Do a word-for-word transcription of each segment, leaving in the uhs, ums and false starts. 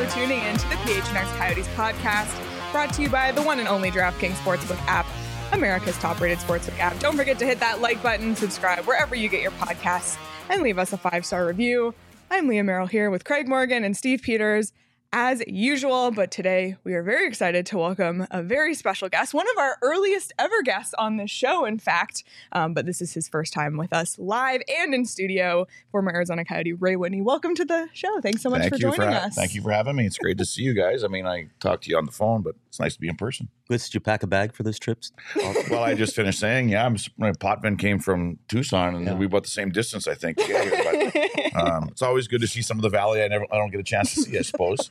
for tuning in to the P H N X Coyotes podcast, brought to you by the one and only DraftKings Sportsbook app, America's top-rated sportsbook app. Don't forget to hit that like button, subscribe wherever you get your podcasts, and leave us a five-star review. I'm Leah Merrill here with Craig Morgan and Steve Peters, as usual, but today we are very excited to welcome a very special guest, one of our earliest ever guests on this show, in fact, um, but this is his first time with us live and in studio, former Arizona Coyote Ray Whitney. Welcome to the show. Thanks so much Thank for you joining for ha- us. Thank you for having me. It's great to see you guys. I mean, I talked to you on the phone, but it's nice to be in person. Did you pack a bag for this trip? Well, I just finished saying, yeah, I'm, my Potvin came from Tucson, and Yeah. we about the same distance, I think. To get here, but, um, it's always good to see some of the valley I never, I don't get a chance to see, I suppose.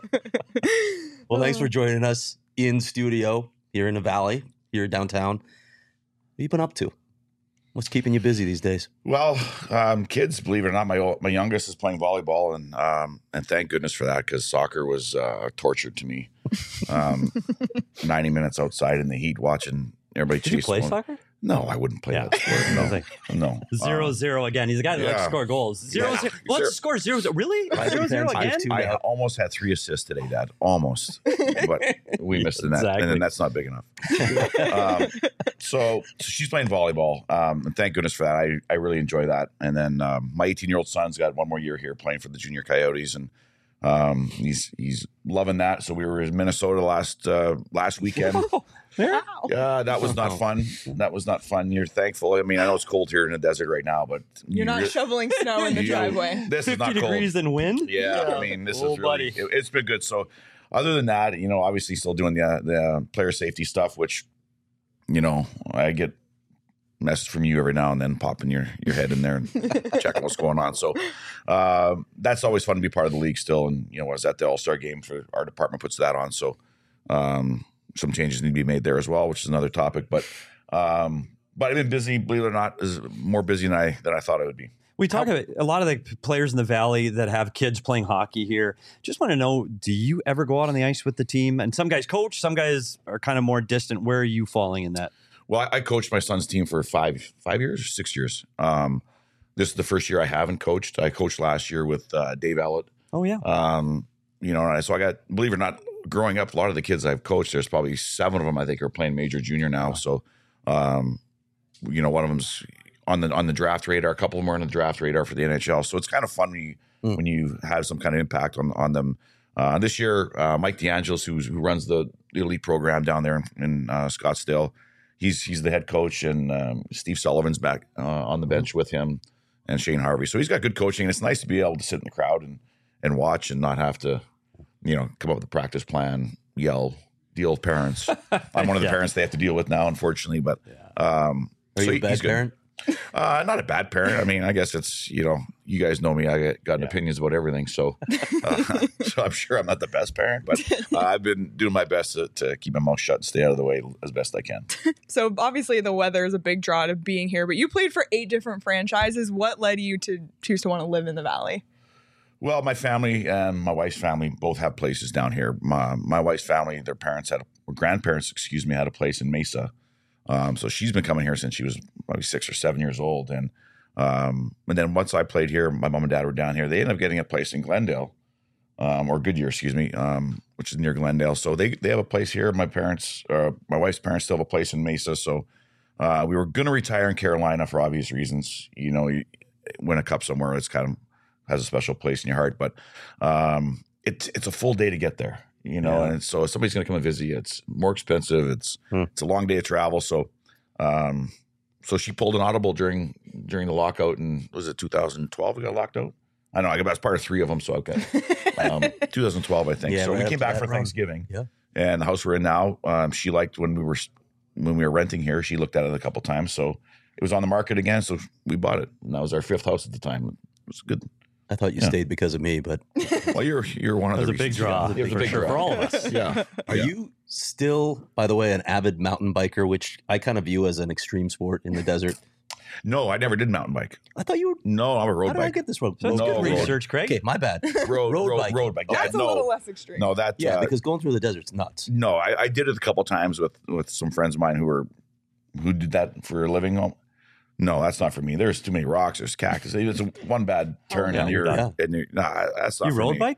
Well, thanks for joining us in studio here in the Valley, here downtown. What have you been up to? What's keeping you busy these days? Well, um, kids, believe it or not, my old, my youngest is playing volleyball, and um, and thank goodness for that, because soccer was uh, torture to me. Um, ninety minutes outside in the heat watching everybody Did you chase play one. soccer? No, I wouldn't play Yeah. that sport. No, no. Zero Um, zero again. He's a guy that likes to yeah. score goals. Zero Yeah. zero. Let's Zero. score zero zero. Really? Five Zero zero intense, again? two I now. almost had three assists today, Dad. Almost, but we missed the net, Exactly. and then that's not big enough. um, so, so she's playing volleyball, um, and thank goodness for that. I, I really enjoy that. And then um, my eighteen year old son's got one more year here playing for the junior Coyotes, and um, he's he's loving that. So we were in Minnesota last uh, last weekend. Wow. Yeah, that was not fun. That was not fun. You're thankful. I mean, I know it's cold here in the desert right now, but You're you not re- shoveling snow in the you- driveway. This is fifty not cold. degrees and wind? Yeah, Yeah. I mean, this Oh, is really, buddy. it, it's been good. So, other than that, you know, obviously still doing the the player safety stuff, which, you know, I get messages from you every now and then, popping your your head in there and checking what's going on. So, uh, that's always fun to be part of the league still. And you know, I was at the All Star game for our department puts that on. So, um, some changes need to be made there as well, which is another topic. But, um, but I've been busy. Believe it or not, is more busy than I than I thought I would be. We talk about a lot of the players in the Valley that have kids playing hockey here. Just want to know, do you ever go out on the ice with the team? And some guys coach, some guys are kind of more distant. Where are you falling in that? Well, I, I coached my son's team for five five years, six years. Um, this is the first year I haven't coached. I coached last year with uh, Dave Ellett. Oh, yeah. Um, you know, so I got, believe it or not, growing up, a lot of the kids I've coached, there's probably seven of them I think are playing major junior now. So, um, you know, one of them's on the on the draft radar. A couple of them are on the draft radar for the N H L. So it's kind of fun when you, Mm. when you have some kind of impact on on them. Uh, this year, uh, Mike DeAngelis, who's, who runs the, the elite program down there in, in uh, Scottsdale, he's he's the head coach, and um, Steve Sullivan's back uh, on the bench with him, and Shane Harvey. So he's got good coaching, and it's nice to be able to sit in the crowd and and watch and not have to, you know, come up with a practice plan, yell, deal with parents. I'm one of the Yeah. parents they have to deal with now, unfortunately. But um, Are so you a bad he's good. parent? Uh, not a bad parent. I mean, I guess it's, you know, you guys know me. I got, got Yeah. opinions about everything. So, uh, so I'm sure I'm not the best parent, but uh, I've been doing my best to, to keep my mouth shut and stay out of the way as best I can. So obviously the weather is a big draw to being here, but you played for eight different franchises. What led you to choose to want to live in the Valley? Well, my family and my wife's family both have places down here. My, my wife's family, their parents had, a, or grandparents, excuse me, had a place in Mesa. Um, so she's been coming here since she was probably six or seven years old. And um, and then once I played here, my mom and dad were down here. They ended up getting a place in Glendale, um, or Goodyear, excuse me, um, which is near Glendale. So they they have a place here. My parents, uh, my wife's parents still have a place in Mesa. So uh, we were going to retire in Carolina for obvious reasons. You know, you win a cup somewhere, it's kind of has a special place in your heart. But um, it's it's a full day to get there. You know, Yeah. and so if somebody's going to come and visit you, it's more expensive. It's Hmm. it's a long day of travel. So, um, so she pulled an audible during during the lockout, and was it two thousand twelve? We got locked out. I know I was part of three of them, so okay, um, two thousand twelve, I think. Yeah, so right we up came to back that for run. Thanksgiving. Yeah. And the house we're in now, um, she liked when we were when we were renting here. She looked at it a couple times, so it was on the market again. So we bought it, and that was our fifth house at the time. It was good. I thought you Yeah. stayed because of me, but Well, you're you're one of That was the a big reasons. draw. Yeah, it was a for big sure, draw. for all of us. Yeah. are Yeah. you still, by the way, an avid mountain biker, which I kind of view as an extreme sport in the desert? No, I never did mountain bike. I thought you were. No, I'm a road How did I biker. get this wrong? That's No, good road. research, Craig. Okay, my bad. Road, Road road, bike. road bike. Yeah, That's a no, little less extreme. no, that Yeah, uh, because going through the desert's nuts. no, I, I did it a couple times with with some friends of mine who were who did that for a living. No, that's not for me. There's too many rocks. There's cactus. It's one bad turn, yeah, and you're yeah. and you're nah, that's not You for road me. bike though?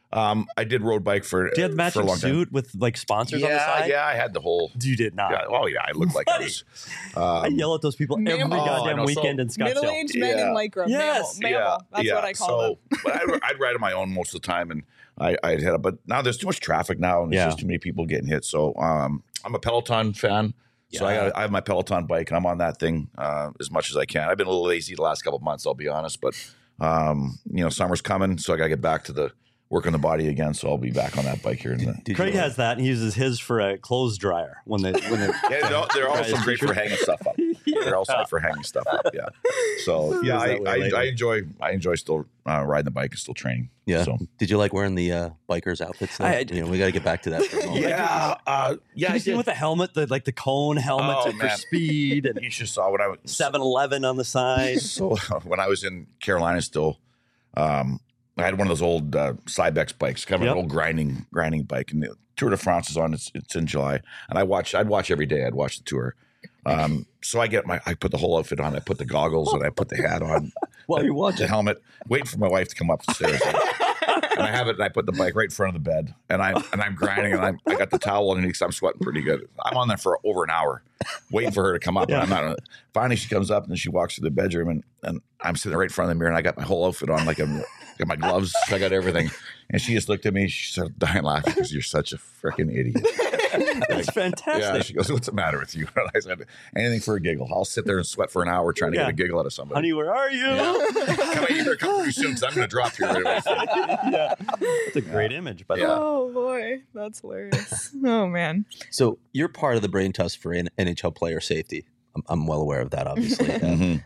Um, I did road bike for, Do you have the for a matching long time. suit with like sponsors yeah, on the side? Yeah, I had the whole. You did not. Yeah, oh yeah, I looked like I Buddy. was. I Um, yell at those people every Mammal. Oh, I goddamn know. weekend So, in Scottsdale. Middle-aged men Yeah. in lycra. Yes. Mammal. Mammal. That's yeah. what I call so, them. but I'd, I'd ride on my own most of the time, and I, I'd head up. But now there's too much traffic now, and there's Yeah. just too many people getting hit. So um, I'm a Peloton fan. So I, Yeah. got, I have my Peloton bike, and I'm on that thing uh, as much as I can. I've been a little lazy the last couple of months, I'll be honest. But um, you know, summer's coming, so I got to get back to the work on the body again. So I'll be back on that bike here. In the, Did Craig you, has that, and he uses his for a clothes dryer when they when they. yeah, they're, they're also Guys, great for hanging stuff up. They're also great for hanging stuff up. Yeah. So yeah, Is that I, way I, later. I enjoy I enjoy still uh, riding the bike and still training. Yeah. So Did you like wearing the uh, bikers outfits? though? I- you know, we got to get back to that. For a moment. yeah, uh, yeah, Have I you seen did. with the helmet, the like the cone helmet Oh, to- for man. speed, and You should saw when I was seven eleven on the side. So when I was in Carolina, still, um, I had one of those old uh, Cybex bikes, kind of Yep. an old grinding grinding bike, and the Tour de France is on. It's, it's in July, and I watch. I'd watch every day. I'd watch the tour. Um, so I get my. I put the whole outfit on. I put the goggles and I put the hat on. While you're the watching. helmet, waiting for my wife to come upstairs. And I have it, and I put the bike right in front of the bed, and I and I'm grinding, and I'm, I got the towel underneath, so I'm sweating pretty good. I'm on there for over an hour, waiting for her to come up. Yeah. And I'm not. Finally, she comes up, and she walks through the bedroom, and, and I'm sitting right in front of the mirror, and I got my whole outfit on, like I'm got my gloves, I got everything. And she just looked at me, she started dying laughing because you're such a freaking idiot. That's fantastic. Yeah, she goes, "What's the matter with you?" And I said, "Anything for a giggle. I'll sit there and sweat for an hour trying to Yeah. get a giggle out of somebody." Honey, where are you? Come on, you better come pretty soon because I'm going to drop here. Right away. yeah, that's a great image. But Yeah. Oh boy, that's hilarious. Oh man. So you're part of the brain trust for N H L player safety. I'm, I'm well aware of that, obviously. Uh, Mhm.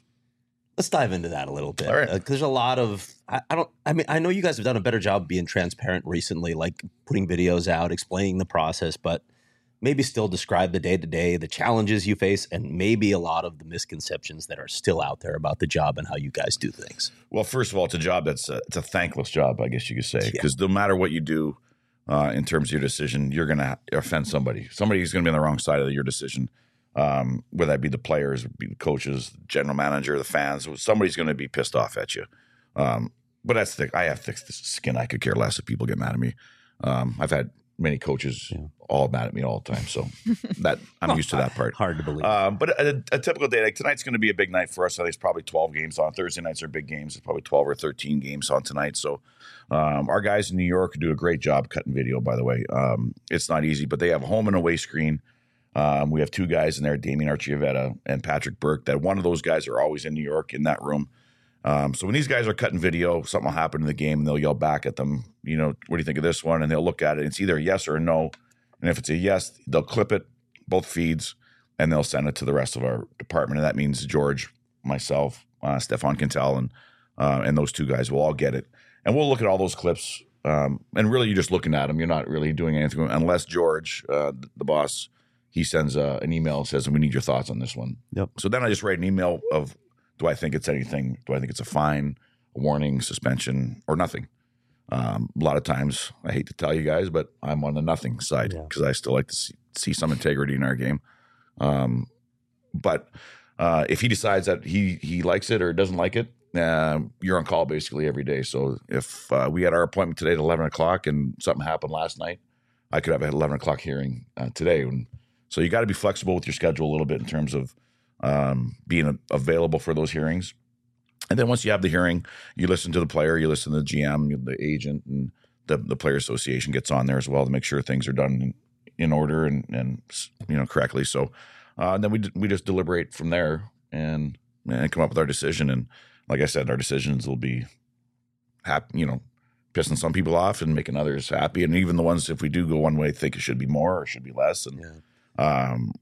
Let's dive into that a little bit. All right. Uh, 'cause there's a lot of I, I don't I mean I know you guys have done a better job being transparent recently, like putting videos out, explaining the process, but maybe still describe the day to day, the challenges you face, and maybe a lot of the misconceptions that are still out there about the job and how you guys do things. Well, first of all, it's a job that's a, it's a thankless job, I guess you could say, Yeah. because no matter what you do uh, in terms of your decision, you're going to offend somebody. Somebody's going to be on the wrong side of your decision, um, whether that be the players, be the coaches, the general manager, the fans. Somebody's going to be pissed off at you. Um, but that's thick. I have thick skin. I could care less if people get mad at me. Um, I've had many coaches Yeah. all mad at me all the time, so that I'm used to that part. hard to believe. Um, but a, a typical day, like tonight's going to be a big night for us. I think it's probably twelve games on. Thursday nights are big games. It's probably twelve or thirteen games on tonight. So um, our guys in New York do a great job cutting video, by the way. Um, it's not easy, but they have a home and away screen. Um, we have two guys in there, Damien Archivetta and Patrick Burke, that one of those guys are always in New York in that room. Um, so when these guys are cutting video, something will happen in the game and they'll yell back at them, you know, what do you think of this one? And they'll look at it. It's either a yes or a no. And if it's a yes, they'll clip it, both feeds, and they'll send it to the rest of our department. And that means George, myself, uh, Stefan Quintel, and uh, and those two guys will all get it. And we'll look at all those clips. Um, and really, you're just looking at them. You're not really doing anything unless George, uh, the boss, he sends uh, an email and says, "We need your thoughts on this one." Yep. So then I just write an email of, do I think it's anything? Do I think it's a fine, a warning, suspension, or nothing? Um, a lot of times, I hate to tell you guys, but I'm on the nothing side Yeah. because I still like to see, see some integrity in our game. Um, but uh, if he decides that he he likes it or doesn't like it, uh, you're on call basically every day. So if uh, we had our appointment today at eleven o'clock and something happened last night, I could have an eleven o'clock hearing uh, today. And so you got to be flexible with your schedule a little bit in terms of um, being a, available for those hearings. And then once you have the hearing, you listen to the player, you listen to the G M, the agent, and the, the player association gets on there as well to make sure things are done in, in order and, and you know correctly. So uh, then we we just deliberate from there and and come up with our decision. And like I said, our decisions will be happy, you know, pissing some people off and making others happy. And even the ones, if we do go one way, think it should be more or should be less. And Yeah. um,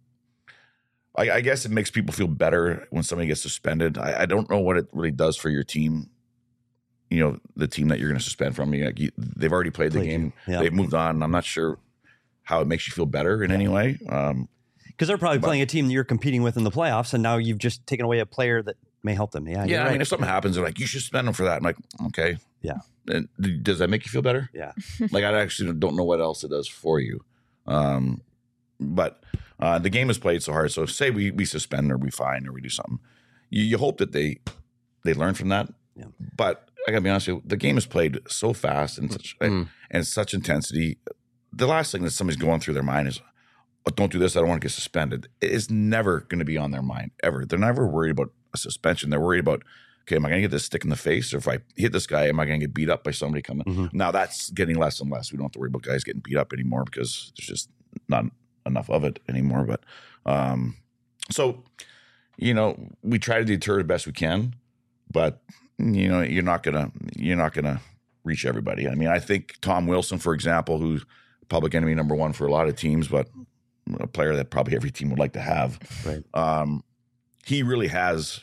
I, I guess it makes people feel better when somebody gets suspended. I, I don't know what it really does for your team. You know, the team that you're going to suspend from you, like you, they've already played the Played game. you. Yeah. They've moved on. I'm not sure how it makes you feel better in any way. Um, Because they're probably but- playing a team that you're competing with in the playoffs, and now you've just taken away a player that may help them. Yeah, yeah, you're I right. mean, if something happens, they're like, you should suspend them for that. I'm like, okay. Yeah. And does that make you feel better? Yeah. Like, I actually don't know what else it does for you. Um, but uh, the game is played so hard. So say we we suspend or we fine or we do something, you, you hope that they they learn from that. Yeah. But I gotta be honest with you, the game is played so fast and such Mm. and such intensity. The last thing that somebody's going through their mind is, oh, don't do this, I don't want to get suspended. It is never going to be on their mind, ever. They're never worried about a suspension. They're worried about, okay, am I going to get this stick in the face? Or if I hit this guy, am I going to get beat up by somebody coming? Mhm. Now, that's getting less and less. We don't have to worry about guys getting beat up anymore because there's just not enough of it anymore. But um, so, you know, we try to deter the best we can, but you know, you're not gonna you're not gonna reach everybody. I mean, I think Tom Wilson, for example, who's public enemy number one for a lot of teams, but a player that probably every team would like to have. Right. Um, he really has,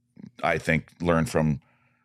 I think, learned from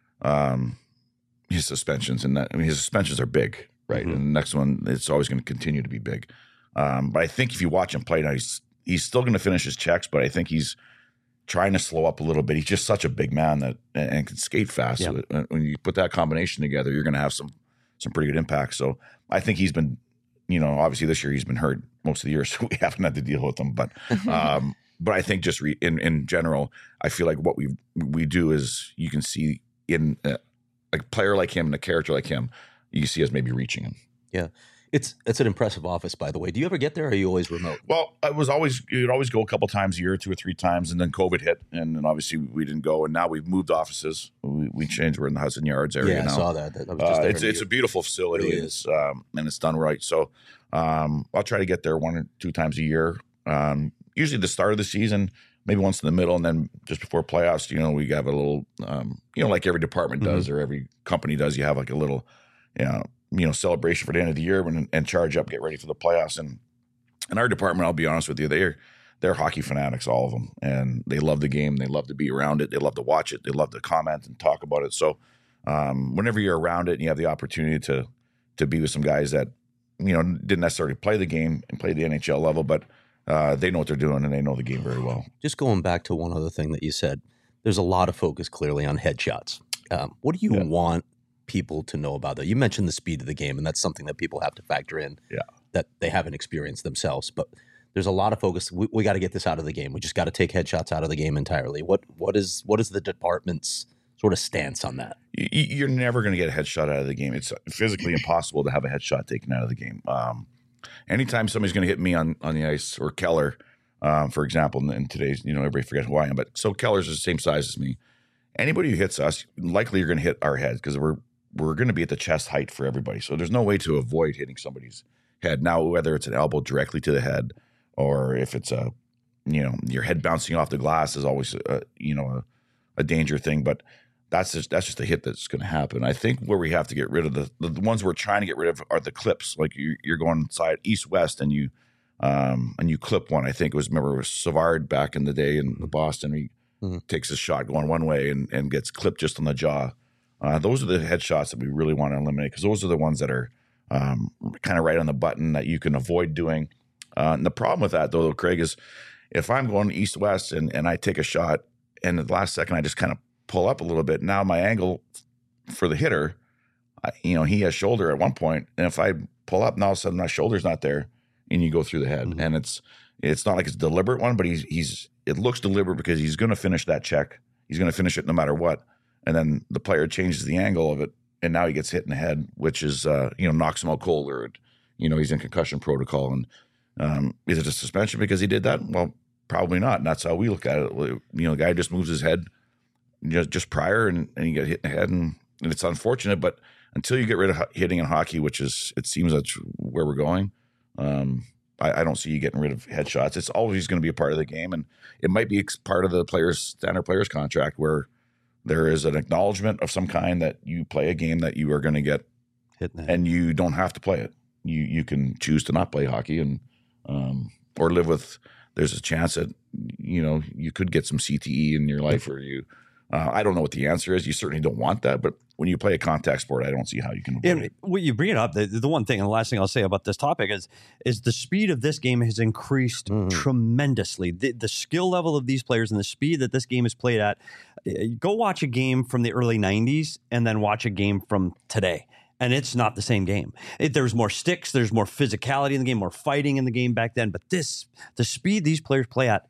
um, his suspensions, and that I mean, his suspensions are big, right? Mhm. And the next one, it's always going to continue to be big. Um, but I think if you watch him play now, he's he's still going to finish his checks, but I think he's trying to slow up a little bit. He's just such a big man that and, and can skate fast. Yeah. So when you put that combination together, you're going to have some some pretty good impact. So I think he's been, you know, obviously this year he's been hurt most of the year, so we haven't had to deal with him. But um, but I think just re, in in general, I feel like what we we do is you can see in a, a player like him and a character like him, you see us maybe reaching him. Yeah. It's it's an impressive office, by the way. Do you ever get there, or are you always remote? Well, I was always you'd always go a couple times a year, two or three times, and then COVID hit, and then obviously we didn't go. And now we've moved offices. We, we changed. We're in the Hudson Yards area Yeah, I now. saw that. That- I was just Uh, there it's in it's a New- beautiful facility, Really and is. it's um, and it's done right. So um, I'll try to get there one or two times a year. Um, usually the start of the season, maybe once in the middle, and then just before playoffs. You know, we have a little, um, you know, like every department does or every company does. You have like a little, you know, you know, celebration for the end of the year and, and charge up, get ready for the playoffs. And in our department, I'll be honest with you, they're they're hockey fanatics, all of them, and they love the game. They love to be around it. They love to watch it. They love to comment and talk about it. So um, whenever you're around it and you have the opportunity to to be with some guys that you know didn't necessarily play the game and play the N H L level, but uh, they know what they're doing and they know the game very well. Just going back to one other thing that you said, there's a lot of focus clearly on headshots. Um, what do you Yeah. want people to know about that? You mentioned the speed of the game, and that's something that people have to factor in. Yeah. That they haven't experienced themselves, but there's a lot of focus. We, we got to get this out of the game. We just got to take headshots out of the game entirely. What what is what is the department's sort of stance on that? You- You're never going to get a headshot out of the game. It's physically impossible to have a headshot taken out of the game. Um, anytime somebody's going to hit me on, on the ice or Keller, um, for example, in, in today's, you know, everybody forgets who I am, but so Keller's the same size as me. Anybody who hits us, likely you're going to hit our heads because we're we're going to be at the chest height for everybody. So there's no way to avoid hitting somebody's head. Now, whether it's an elbow directly to the head or if it's a, you know, your head bouncing off the glass is always, a, you know, a, a danger thing. But that's just that's just a hit that's going to happen. I think where we have to get rid of the the ones we're trying to get rid of are the clips. Like you, you're going side east west and you um, and you clip one. I think it was remember it was Savard back in the day in Boston. He Mhm. takes a shot going one way and, and gets clipped just on the jaw. Uh, those are the headshots that we really want to eliminate because those are the ones that are um, kind of right on the button that you can avoid doing. Uh, and the problem with that, though, Craig, is if I'm going east-west and, and I take a shot and at the last second I just kind of pull up a little bit, now my angle for the hitter, I, you know, he has shoulder at one point, and if I pull up, now all of a sudden my shoulder's not there and you go through the head. Mhm. And it's it's not like it's a deliberate one, but he's he's it looks deliberate because he's going to finish that check. He's going to finish it no matter what. And then the player changes the angle of it, and now he gets hit in the head, which is, uh, you know, knocks him out cold or, you know, he's in concussion protocol. And um, is it a suspension because he did that? Well, probably not. And that's how we look at it. You know, the guy just moves his head just, just prior and, and you get hit in the head. And, and it's unfortunate, but until you get rid of ho- hitting in hockey, which is, it seems that's where we're going, um, I, I don't see you getting rid of headshots. It's always going to be a part of the game. And it might be ex- part of the player's standard player's contract where there is an acknowledgement of some kind that you play a game that you are going to get, Hitting that. and you don't have to play it. You you can choose to not play hockey and um, or live with. There's a chance that you know you could get some C T E in your life, or you. Uh, I don't know what the answer is. You certainly don't want that, but when you play a contact sport, I don't see how you can avoid And it. when you bring it up, the, the one thing and the last thing I'll say about this topic is is the speed of this game has increased Mhm. tremendously. The, the skill level of these players and the speed that this game is played at. eh, Go watch a game from the early nineties and then watch a game from today. And it's not the same game. It, there's more sticks, there's more physicality in the game, more fighting in the game back then. But this, the speed these players play at,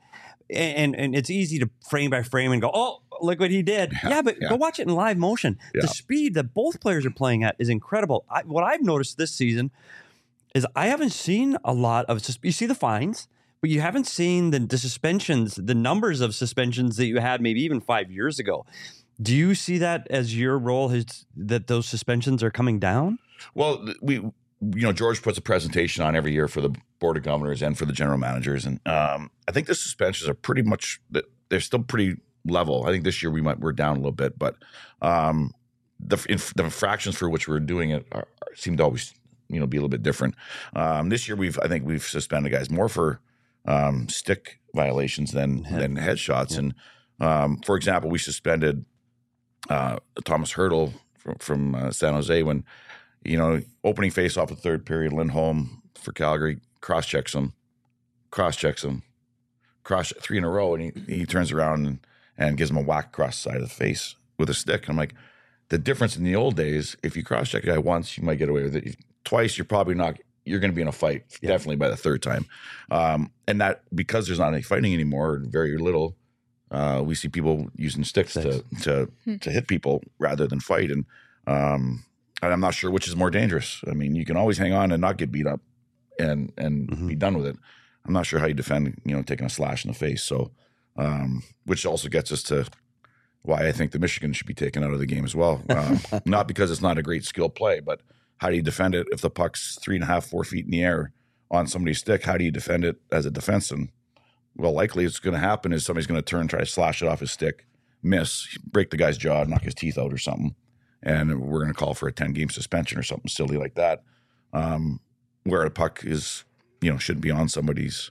And and it's easy to frame by frame and go, oh, look what he did. Yeah, Yeah, but yeah. go watch it in live motion. Yeah. The speed that both players are playing at is incredible. I, what I've noticed this season is I haven't seen a lot of, sus- you see the fines, but you haven't seen the, the suspensions, the numbers of suspensions that you had maybe even five years ago. Do you see that as your role has, that those suspensions are coming down? Well, we, you know, George puts a presentation on every year for the board of governors and for the general managers, and um, I think the suspensions are pretty much they're still pretty level. I think this year we might we're down a little bit, but um, the inf- the infractions for which we're doing it are, are, seem to always you know be a little bit different. Um, this year we've I think we've suspended guys more for um, stick violations than Head. than headshots, Yeah. and um, for example, we suspended uh, Thomas Hurdle from, from uh, San Jose when. You know, opening face off the third period, Lindholm for Calgary cross checks him, cross checks him, cross three in a row, and he, he turns around and, and gives him a whack across the side of the face with a stick. I'm like, the difference in the old days, if you cross check a guy once, you might get away with it. Twice, you're probably not. You're going to be in a fight, Yeah. definitely by the third time. Um, and that because there's not any fighting anymore, very little. Uh, we see people using sticks Sticks. to to to hit people rather than fight, and. Um, And I'm not sure which is more dangerous. I mean, you can always hang on and not get beat up and and Mhm. be done with it. I'm not sure how you defend, you know, taking a slash in the face. So, um, which also gets us to why I think the Michigan should be taken out of the game as well. Um, not because it's not a great skill play, but how do you defend it if the puck's three and a half, four feet in the air on somebody's stick? How do you defend it as a defenseman? Well, likely it's going to happen is somebody's going to turn, try to slash it off his stick, miss, break the guy's jaw, knock his teeth out or something. And we're going to call for a ten-game suspension or something silly like that, um, where a puck is, you know, shouldn't be on somebody's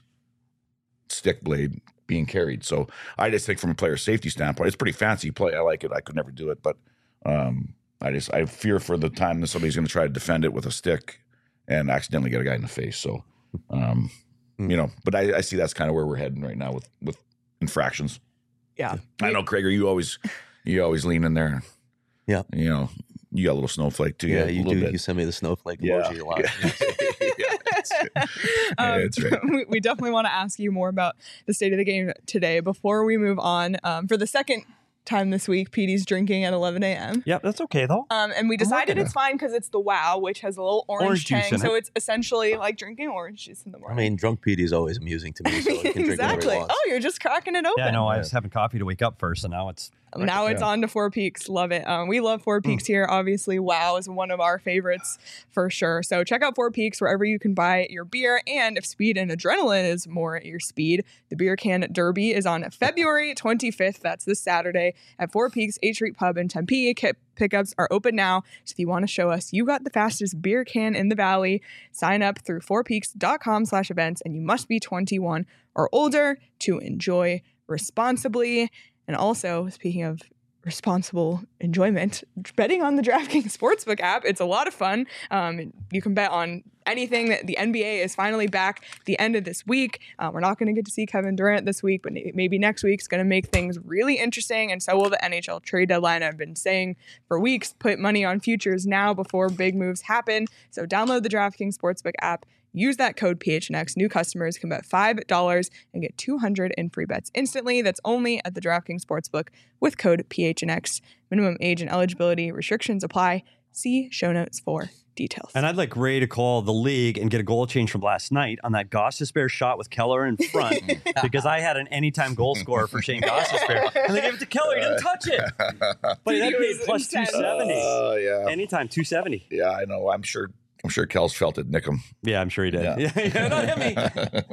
stick blade being carried. So I just think from a player safety standpoint, it's pretty fancy play. I like it. I could never do it, but um, I just I fear for the time that somebody's going to try to defend it with a stick and accidentally get a guy in the face. So, um, you know, but I, I see that's kind of where we're heading right now with with infractions. Yeah. I know, Craig, you always you always lean in there. Yeah. You know, you got a little snowflake too. Yeah, a you little do. bit. You send me the snowflake Yeah. emoji a lot. Yeah, that's it. Um, That's right. we, we definitely want to ask you more about the state of the game today. Before we move on, um, for the second time this week, Petey's drinking at eleven a.m. Yeah, that's okay though. Um, and we decided liking it's fine because it's the WoW, which has a little orange, Orange juice tang. in So it. it's essentially like drinking orange juice in the I morning. mean, drunk Petey is always amusing to me, so he can drink whatever exactly. he wants. Oh, you're just cracking it open. Yeah, no, I Yeah. was having coffee to wake up first, and now it's Now it's Yeah. on to Four Peaks. Love it. Um, we love Four Peaks here. Obviously, WoW is one of our favorites for sure. So check out Four Peaks wherever you can buy your beer. And if speed and adrenaline is more at your speed, the Beer Can Derby is on February twenty-fifth. That's this Saturday at Four Peaks eighth Street Pub in Tempe. Kit pickups are open now. So if you want to show us you got the fastest beer can in the valley, sign up through fourpeaks.com slash events. And you must be twenty-one or older to enjoy responsibly. And also, speaking of responsible enjoyment, betting on the DraftKings Sportsbook app, it's a lot of fun. Um, you can bet on anything. The N B A is finally back at the end of this week. Uh, we're not going to get to see Kevin Durant this week, but maybe next week's going to make things really interesting, and so will the N H L trade deadline. I've been saying for weeks, put money on futures now before big moves happen. So download the DraftKings Sportsbook app. Use that code P H N X. New customers can bet five dollars and get two hundred dollars in free bets instantly. That's only at the DraftKings Sportsbook with code P H N X. Minimum age and eligibility restrictions apply. See show notes for details. And I'd like Ray to call the league and get a goal change from last night on that Gossespierre shot with Keller in front because I had an anytime goal scorer for Shane Gossespierre. And they gave it to Keller. He didn't touch it. But that It paid was plus intense. two seventy. Oh, yeah. Anytime, two seventy. Yeah, I know. I'm sure I'm sure Kel's felt it nick him. Yeah, I'm sure he did. Yeah. Yeah, yeah, not hit me.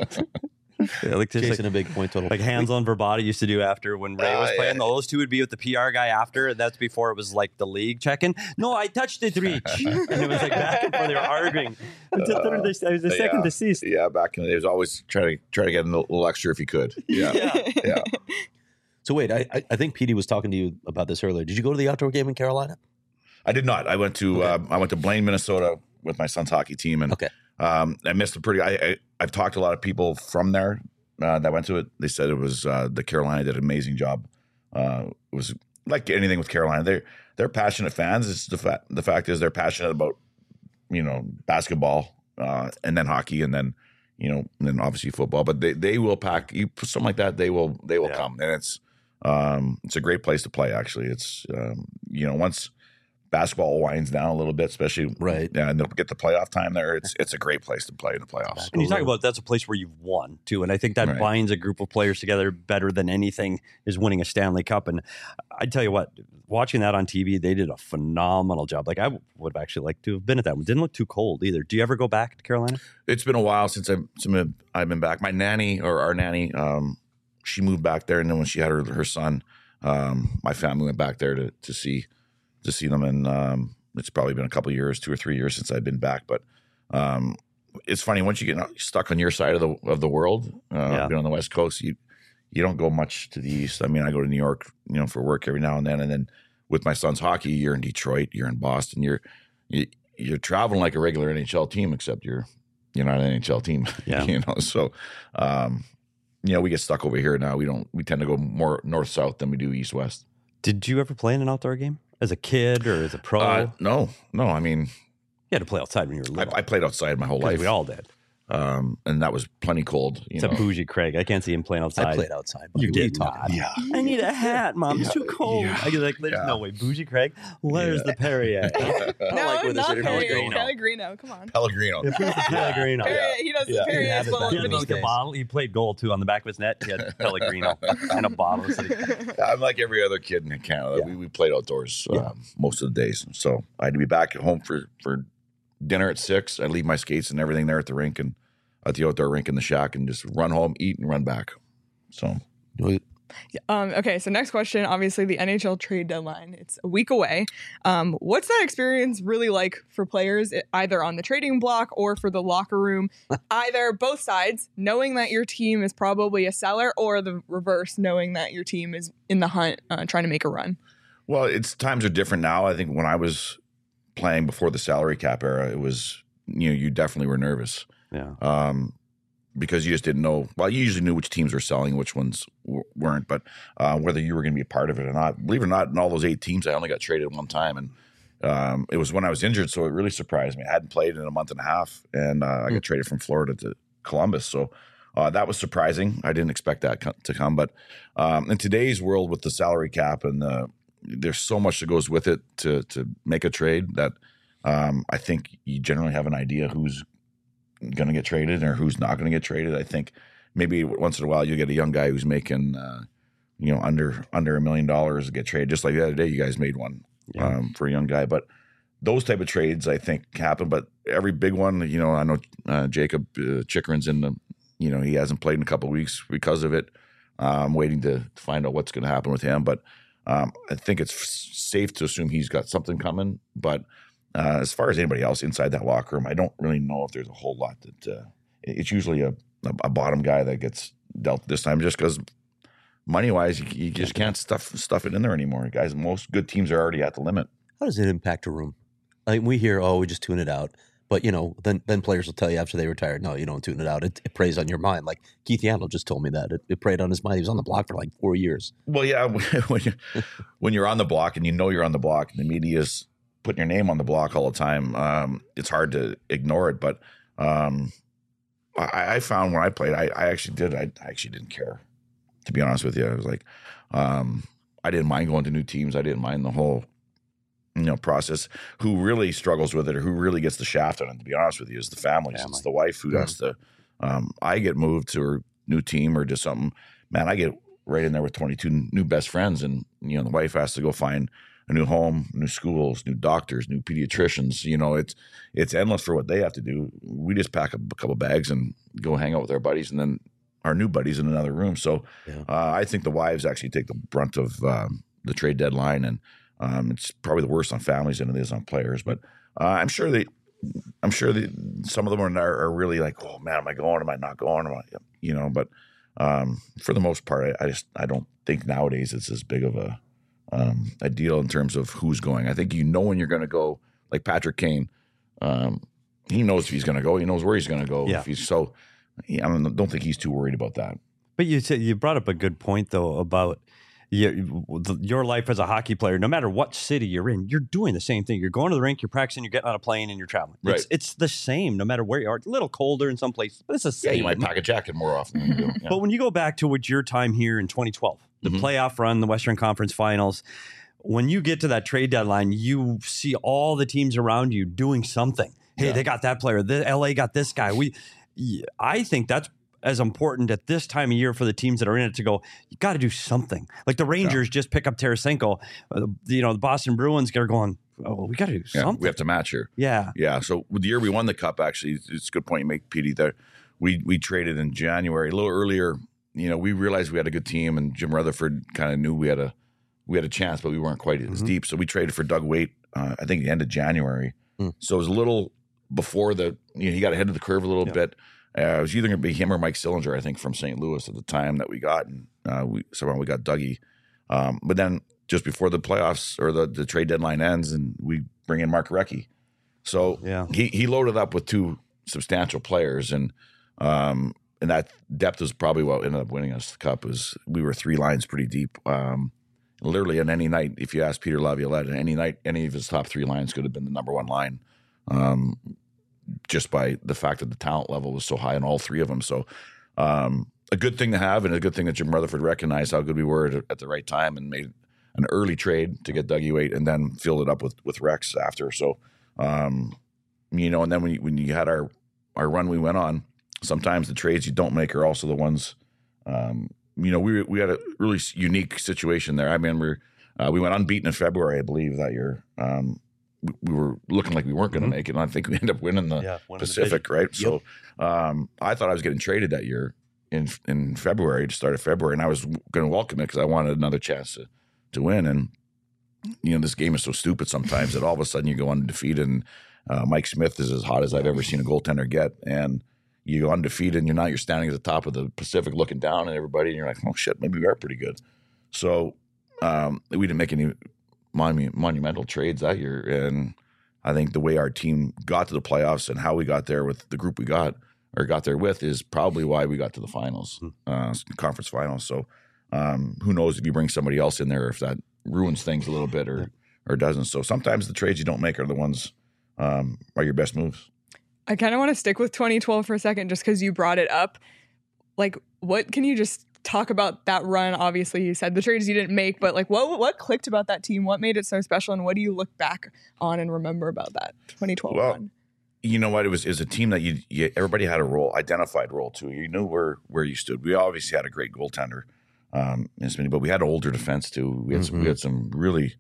Yeah, like just Chasing like, a big point total. like hands on Verbata used to do after when Ray Oh, was playing. yeah. Those two would be with the P R guy after. That's before it was like the league checking. No, I touched it, Reach. And it was like back and forth. They were arguing. It was the, third, it was the second yeah. deceased. Yeah, back in the day, it was always try to try to get a little, little extra if he could. Yeah, Yeah. yeah. So wait, I I- I think Petey was talking to you about this earlier. Did you go to the outdoor game in Carolina? I did not. I went to Okay. um, I went to Blaine, Minnesota, with my son's hockey team, and Okay. um, I missed a pretty. I, I I've talked to a lot of people from there uh, that went to it. They said it was uh, the Carolina did an amazing job. Uh, it was like anything with Carolina. They're they're passionate fans. It's the fact the fact is they're passionate about you know basketball uh, and then hockey and then you know, and then obviously football. But they, they will pack you something like that. They will they will Yeah. come, and it's um, it's a great place to play. Actually, it's um, you know once basketball winds down a little bit, especially Right. yeah, and they'll get the playoff time there. It's it's a great place to play in the playoffs. And you talk about that's a place where you've won too, and I think that Right. binds a group of players together better than anything is winning a Stanley Cup. And I tell you what, watching that on T V, they did a phenomenal job. Like I would have actually liked to have been at that one. Didn't look too cold either. Do you ever go back to Carolina? It's been a while since I've since I've been back. My nanny or our nanny, um, she moved back there, and then when she had her her son, um, my family went back there to to see to see them, and um, it's probably been a couple of years, two or three years since I've been back. But um, it's funny once you get stuck on your side of the of the world, uh, Yeah. being on the West Coast, you you don't go much to the East. I mean, I go to New York, you know, for work every now and then, and then with my son's hockey, you're in Detroit, you're in Boston, you're you, you're traveling like a regular N H L team, except you're you're not an N H L team, Yeah. you know. So, um, you know, we get stuck over here now. We don't. We tend to go more north south than we do east west. Did you ever play in an outdoor game as a kid or as a pro? Uh, no, no. I mean, you had to play outside when you were I, little. I played outside my whole 'Cause life. we all did. um, and that was plenty cold. You Except know. bougie Craig. I can't see him playing outside. I played outside. You What are did talking not. about? Yeah. I need a hat, Mom. It's Yeah, too cold. yeah, I was like, there's yeah. no way. Bougie Craig, where's the Perrier? No, like where this not interview Perrier. is going. Pellegrino. Come on. Pellegrino. Pellegrino. Perrier, he does Yeah. the Perrier You have as it well. back He as had in like those a days. bottle. He played goal too on the back of his net. He had Pellegrino and a bottle. So he- I'm like every other kid in Canada. Yeah. We, we played outdoors Yeah. um, most of the days. So I had to be back at home for, for dinner at six. I'd leave my skates and everything there at the rink and at the outdoor rink in the shack and just run home, eat, and run back. So Um, okay, so next question. Obviously, the N H L trade deadline. It's a week away. Um, what's that experience really like for players, e- either on the trading block or for the locker room? Either both sides, knowing that your team is probably a seller, or the reverse, knowing that your team is in the hunt, uh, trying to make a run. Well, it's times are different now. I think when I was playing before the salary cap era, it was, you know, you definitely were nervous yeah. um, because you just didn't know. Well, you usually knew which teams were selling, which ones w- weren't, but uh, whether you were going to be a part of it or not. Believe it or not, in all those eight teams, I only got traded one time, and um, it was when I was injured, so it really surprised me. I hadn't played in a month and a half, and uh, I got traded from Florida to Columbus, so uh, that was surprising. I didn't expect that co- to come, but um, in today's world with the salary cap and the there's so much that goes with it to to make a trade that um, I think you generally have an idea who's going to get traded or who's not going to get traded. I think maybe once in a while you get a young guy who's making uh, you know under under a million dollars to get traded. Just like the other day, you guys made one Yeah. um, for a young guy. But those type of trades I think happen. But every big one, you know, I know uh, Jacob uh, Chikrin's in the, you know, he hasn't played in a couple of weeks because of it. I'm waiting to find out what's going to happen with him, but. Um, I think it's f- safe to assume he's got something coming. But uh, as far as anybody else inside that locker room, I don't really know if there's a whole lot that uh, it's usually a, a, a bottom guy that gets dealt this time just because money wise, you, you just can't stuff stuff it in there anymore. Guys, most good teams are already at the limit. How does it impact a room? I mean, we hear, oh, we just tune it out. But, you know, then then players will tell you after they retire, no, you don't tune it out. It, it preys on your mind. Like Keith Yandel just told me that. It, it preyed on his mind. He was on the block for like four years. Well, yeah, when, you, when you're on the block and you know you're on the block and the media's putting your name on the block all the time, um, it's hard to ignore it. But um, I, I found when I played, I, I actually did. I, I actually didn't care, to be honest with you. I was like, um, I didn't mind going to new teams. I didn't mind the whole, you know, process. Who really struggles with it or who really gets the shaft on it, to be honest with you, is the families. Family. It's the wife who has to. Um, I get moved to a new team or just something. Man, I get right in there with twenty-two new best friends, and you know, the wife has to go find a new home, new schools, new doctors, new pediatricians. You know, it's it's endless for what they have to do. We just pack a, a couple bags and go hang out with our buddies, and then our new buddies in another room. So Yeah. uh, I think the wives actually take the brunt of um, the trade deadline, and um, it's probably the worst on families than it is on players. But uh, I'm sure they, I'm sure that some of them are, are really like, oh man, am I going? Am I not going? Am I, you know, but um, for the most part, I, I just I don't think nowadays it's as big of a um, a deal in terms of who's going. I think you know when you're going to go. Like Patrick Kane, um, he knows if he's going to go. He knows where he's going to go. Yeah. If he's so, I don't, don't think he's too worried about that. But you said you brought up a good point though about you, your life as a hockey player, no matter what city you're in, you're doing the same thing. You're going to the rink, you're practicing, you're getting on a plane, and you're traveling. Right. It's, it's the same no matter where you are. It's a little colder in some places, but it's the Yeah, same. you might pack a jacket more often than you do. Yeah. But when you go back to what your time here in twenty twelve, the Mhm. playoff run, the Western Conference Finals, when you get to that trade deadline, you see all the teams around you doing something. Hey, Yeah. they got that player. The L A got this guy. We, I think that's as important at this time of year for the teams that are in it to go, you got to do something. Like the Rangers yeah. just pick up Tarasenko. Uh, you know, the Boston Bruins are going, oh, well, we got to do yeah, something. We have to match here. Yeah. Yeah. So with the year we won the cup, actually, it's a good point you make, Petey, that we, we traded in January, a little earlier. You know, we realized we had a good team, and Jim Rutherford kind of knew we had a we had a chance, but we weren't quite as Mm-hmm. deep. So we traded for Doug Weight, uh, I think the end of January. Mm. So it was a little before the, you know, he got ahead of the curve a little Yeah. bit. Uh, it was either going to be him or Mike Sillinger, I think, from Saint Louis at the time that we got. And uh, we somehow we got Dougie. Um, but then just before the playoffs or the, the trade deadline ends, and we bring in Mark Recchi. So Yeah. he he loaded up with two substantial players, and um, and that depth is probably what ended up winning us the cup. Is we were three lines pretty deep. Um, literally on any night, if you ask Peter Laviolette, on any night, any of his top three lines could have been the number one line. Um, just by the fact that the talent level was so high in all three of them. So um, a good thing to have, and a good thing that Jim Rutherford recognized how good we were at, at the right time and made an early trade to get Dougie Weight and then filled it up with, with Rex after. So, um, you know, and then when you, when you had our, our run we went on, sometimes the trades you don't make are also the ones, um, you know, we we had a really unique situation there. I remember uh, we went unbeaten in February, I believe, that year. Um, we, we were looking like we weren't going to Mhm. make it, and I think we ended up winning the Yeah, winning the Pacific, right? Yep. So um, I thought I was getting traded that year in in February, to start of February, and I was going to welcome it because I wanted another chance to to win. And you know, this game is so stupid sometimes that all of a sudden you go undefeated, and uh, Mike Smith is as hot as I've ever seen a goaltender get, and you go undefeated, and you're not you're standing at the top of the Pacific looking down at everybody, and you're like, oh shit, maybe we are pretty good. So um, we didn't make any monu- monumental trades that year, and I think the way our team got to the playoffs and how we got there with the group we got or got there with is probably why we got to the finals, uh, conference finals. So um, who knows if you bring somebody else in there, if that ruins things a little bit or or doesn't. So sometimes the trades you don't make are the ones um, are your best moves. I kind of want to stick with twenty twelve for a second just because you brought it up. Like, what can you just talk about that run? Obviously, you said the trades you didn't make, but like, what what clicked about that team? What made it so special? And what do you look back on and remember about that twenty twelve Well, run? You know what? It was, it was a team that you, you everybody had a role, identified role too. You knew where where you stood. We obviously had a great goaltender, um, but we had older defense too. We had some, we had some really,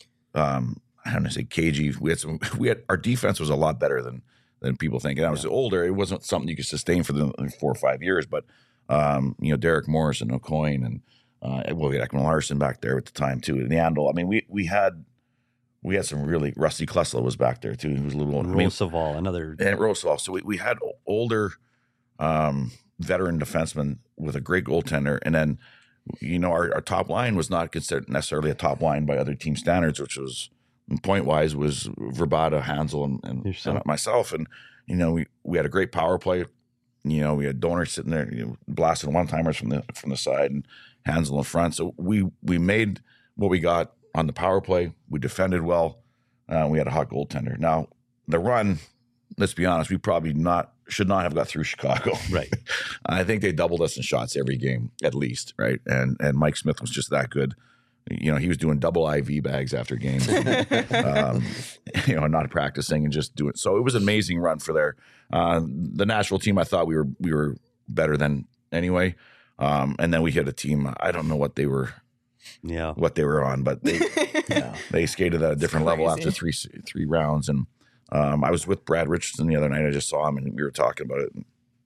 um, I don't want to say cagey. We had some. We had our defense was a lot better than than people think. And I was older. It wasn't something you could sustain for the four or five years. But um, you know, Derek Morris and O'Coin and uh, well, we had Ekman Larson back there at the time too. And Yandel. I mean, we we had. We had some really Rusty Klesla was back there too. He was a little older. I mean, Roosevelt, another and Roosevelt. So we, we had older um, veteran defensemen with a great goaltender. And then, you know, our, our top line was not considered necessarily a top line by other team standards, which was point wise was Verbata, Hansel, and, and, and myself. And, you know, we, we had a great power play. You know, we had Donor sitting there, you know, blasting one timers from the from the side and Hansel in front. So we we made what we got on the power play. We defended well. Uh, we had a hot goaltender. Now, the run, let's be honest, we probably not should not have got through Chicago. Right. I think they doubled us in shots every game, at least, right? And and Mike Smith was just that good. You know, he was doing double I V bags after games, um, you know, not practicing and just doing. So it was an amazing run for their uh, the national team. I thought we were we were better than anyway. Um, and then we hit a team. I don't know what they were. Yeah, what they were on, but they yeah, they skated at a different level after three three rounds. And um, I was with Brad Richardson the other night. I just saw him, and we were talking about it.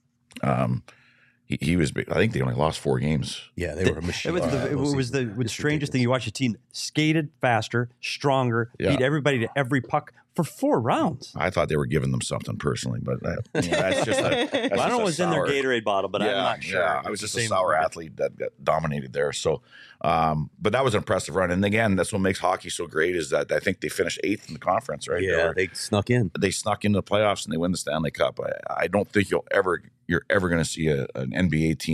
Um, he, he was. I think they only lost four games. Yeah, they were a machine. It was the, it was the, the strangest thing. You watch a team skated faster, stronger, Yeah. beat everybody to every puck for four rounds. I thought they were giving them something personally, but that, you know, that's just. A, that's I don't just know a what's in their sour- Gatorade bottle, but yeah, I'm not sure. Yeah, I was It's just the a same sour market. athlete that got dominated there. So, um, but that was an impressive run. And again, that's what makes hockey so great is that I think they finished eighth in the conference, right? Yeah, were- they snuck in. they snuck into the playoffs and they win the Stanley Cup. I, I don't think you'll ever you're ever going to see a, an N B A team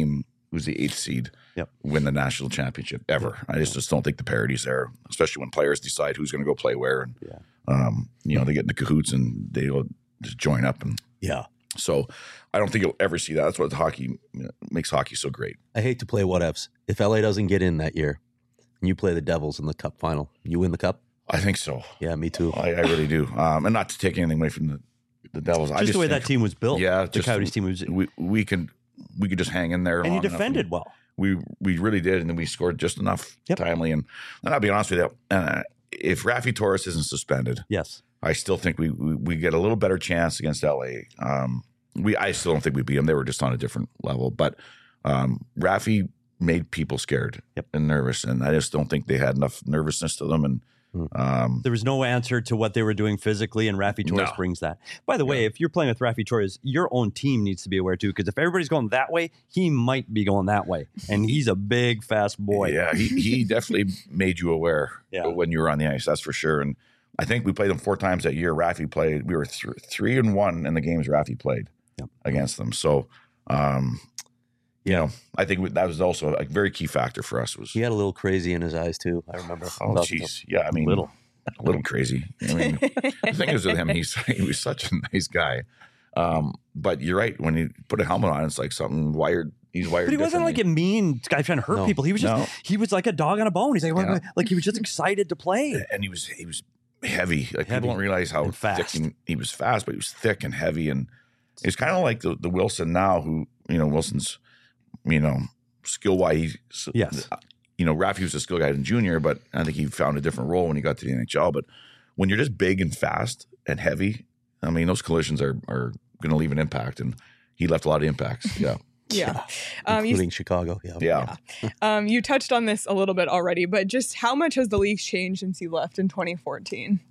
who's the eighth seed Yep. win the national championship ever. I just, just don't think the parity's there, especially when players decide who's going to go play where. And, Yeah. um, you know, they get in the cahoots and they'll just join up. And Yeah. so I don't think you'll ever see that. That's what hockey you know, makes hockey so great. I hate to play what ifs. If L A doesn't get in that year and you play the Devils in the cup final, you win the cup? I think so. Yeah, me too. I, I really do. Um, and not to take anything away from the, the Devils. I Just just the way think that team was built. Yeah, the just- Coyotes team was, and we, we can we could just hang in there. you long enough defended and well. We we really did, and then we scored just enough Yep. timely. And, and I'll be honest with you, uh, if Rafi Torres isn't suspended, Yes. I still think we, we we get a little better chance against L A. Um, we I still don't think we beat them. They were just on a different level. But um, Rafi made people scared Yep. and nervous, and I just don't think they had enough nervousness to them. And um, There was no answer to what they were doing physically, and Rafi Torres No. brings that. By the way, if you're playing with Rafi Torres, your own team needs to be aware too, because if everybody's going that way, he might be going that way, and he's a big, fast boy. yeah, he he definitely made you aware Yeah. when you were on the ice. That's for sure. And I think we played them four times that year. Rafi played. We were th- three and one in the games Rafi played Yep. against them. So, um, you know, I think we- that was also a very key factor for us. Was He had a little crazy in his eyes too. I remember. oh talking to him. jeez, yeah. I mean, Little. a little crazy. I mean, the thing is with him, he's he was such a nice guy. Um, but you're right. When you put a helmet on, it's like something wired. He's wired. But he wasn't like a differently. mean guy trying to hurt No. people. He was just No. he was like a dog on a bone. He's like, Yeah. like he was just excited to play. and he was he was heavy. Like Heavy people don't realize how and fast. thick he, he was fast, but he was thick and heavy, and he's kind of like the, the Wilson now, who you know Wilson's, you know, skill wise. Yes. You know, Rafi was a skill guy in junior, but I think he found a different role when he got to the N H L. But when you're just big and fast and heavy, I mean, those collisions are are going to leave an impact, and he left a lot of impacts. Yeah, Yeah. Um, you, Including Chicago. Yeah. yeah. um, you touched on this a little bit already, but just how much has the league changed since you left in twenty fourteen?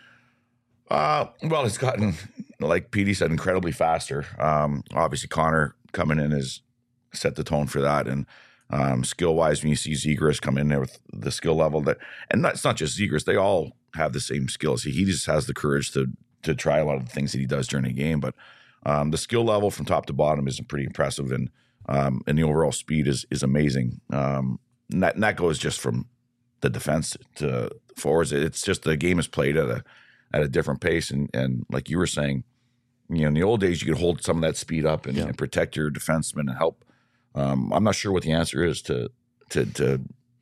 Uh, well, it's gotten, like Petey said, incredibly faster. Um, obviously, Connor coming in has set the tone for that. And um, skill wise, when you see Zegras come in there with the skill level that, and that's not just Zegras, they all have the same skills. He, he just has the courage to to try a lot of the things that he does during a game. But um, the skill level from top to bottom is pretty impressive, and um, and the overall speed is is amazing. Um, and that, and that goes just from the defense to forwards. It's just the game is played at a at a different pace, and and like you were saying, you know, in the old days you could hold some of that speed up and, and protect your defensemen and help. Um, I'm not sure what the answer is to to to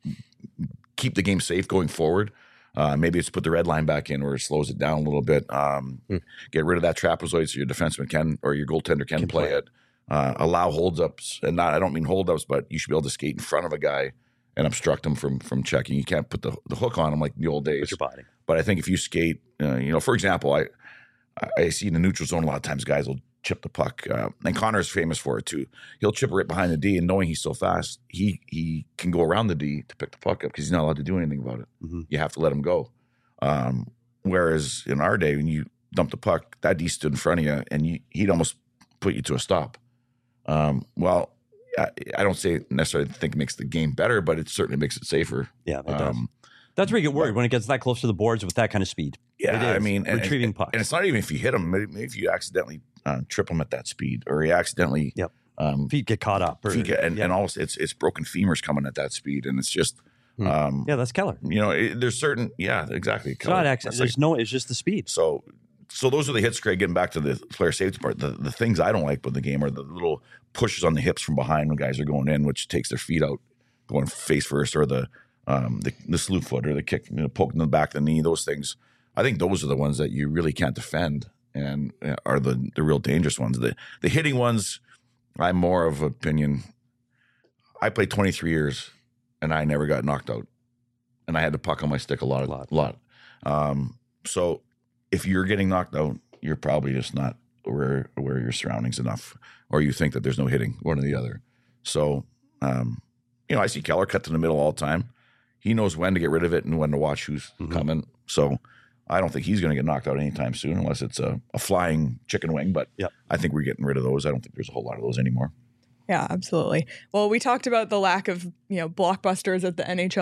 keep the game safe going forward. Uh, maybe it's put the red line back in, or it slows it down a little bit. Um, Hmm. Get rid of that trapezoid so your defenseman can, or your goaltender can, Can play, play it. Uh, allow holdups, and not I don't mean holdups, but you should be able to skate in front of a guy and obstruct him from from checking. You can't put the, the hook on him like in the old days. With your body. But I think if you skate, uh, you know, for example, I I see in the neutral zone a lot of times guys will chip the puck, uh, and Connor's famous for it too. He'll chip it right behind the D, and knowing he's so fast, he he can go around the D to pick the puck up because he's not allowed to do anything about it. Mhm. You have to let him go. Um, whereas in our day, when you dump the puck, that D stood in front of you, and you, he'd almost put you to a stop. Um, well, I, I don't say necessarily think it makes the game better, but it certainly makes it safer. Yeah, it does. Um, That's where you get worried when it gets that close to the boards with that kind of speed. Yeah, It I is. mean, and- retrieving and, pucks. and it's not even if you hit him. Maybe, maybe if you accidentally uh, trip him at that speed, or you accidentally, Yep. um, Feet get caught up. Or, feet get- and, yeah. and also it's it's broken femurs coming at that speed, and it's just, Hmm. um, yeah, that's Keller. you know, it, there's certain, yeah, exactly. It's not accident. There's no. It's just the speed. So, so those are the hits, Craig. Getting back to the player safety part, the, the things I don't like with the game are the little pushes on the hips from behind when guys are going in, which takes their feet out, going face first, or the um, the, the slew foot or the kick, you know, poking the back of the knee. Those things, I think those are the ones that you really can't defend and uh, are the the real dangerous ones. The the hitting ones, I'm more of opinion. I played twenty-three years, and I never got knocked out, and I had the puck on my stick a lot, a lot, lot. Um, so if you're getting knocked out, you're probably just not aware aware of your surroundings enough, or you think that there's no hitting, one or the other. So, um, you know, I see Keller cut to the middle all the time. He knows when to get rid of it and when to watch who's Mhm. coming. So I don't think he's going to get knocked out anytime soon, unless it's a, a flying chicken wing. But Yep. I think we're getting rid of those. I don't think there's a whole lot of those anymore. Yeah, absolutely. Well, we talked about the lack of, you know, blockbusters at the N H L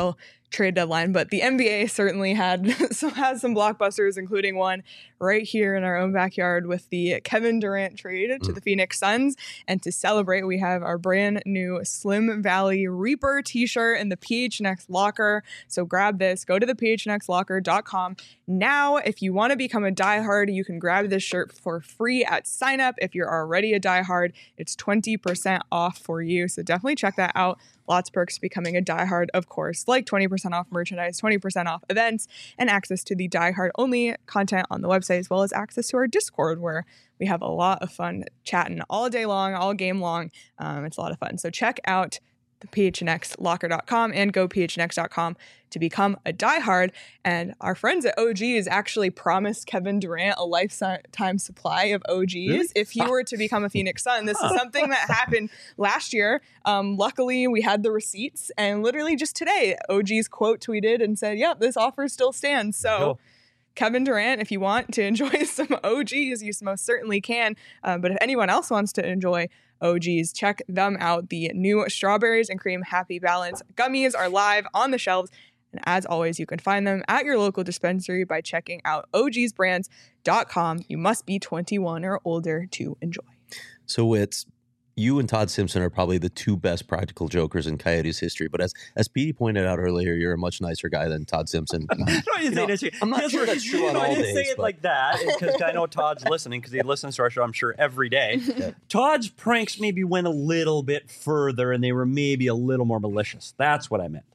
trade deadline, but the N B A certainly had some has some blockbusters, including one right here in our own backyard with the Kevin Durant trade to Mm. the Phoenix Suns. And to celebrate, we have our brand new Slim Valley Reaper t-shirt in the P H N X locker. So grab this, go to the P H N X locker dot com. Now, if you want to become a diehard, you can grab this shirt for free at sign up. If you're already a diehard, it's twenty percent off for you. So definitely check that out. Lots of perks to becoming a diehard, of course, like twenty percent off merchandise, twenty percent off events, and access to the diehard only content on the website, as well as access to our Discord, where we have a lot of fun chatting all day long, all game long. Um, it's a lot of fun. So check out the P H N X locker dot com and go P H N X dot com to become a diehard. And our friends at O G's actually promised Kevin Durant a lifetime supply of O Gs Really? if he were to become a Phoenix Sun. This is something that happened last year. Um, luckily, we had the receipts, and literally just today, O G's quote tweeted and said, yep, this offer still stands. So Cool. Kevin Durant, if you want to enjoy some O Gs, you most certainly can. Uh, but if anyone else wants to enjoy O Gs, check them out. The new Strawberries and Cream Happy Balance gummies are live on the shelves. And as always, you can find them at your local dispensary by checking out O Gs brands dot com. You must be twenty-one or older to enjoy. So it's you and Todd Simpson are probably the two best practical jokers in Coyotes history. But as as Petey pointed out earlier, you're a much nicer guy than Todd Simpson. No, you You know, say that's- I'm not Guess sure what? that's true on No, I all didn't days, say it but- like that because I know Todd's listening because he listens to our show, I'm sure, every day. Yeah. Todd's pranks maybe went a little bit further and they were maybe a little more malicious. That's what I meant.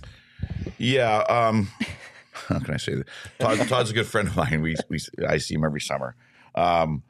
Yeah. Um, how can I say that? Todd, Todd's a good friend of mine. We, we I see him every summer. Um,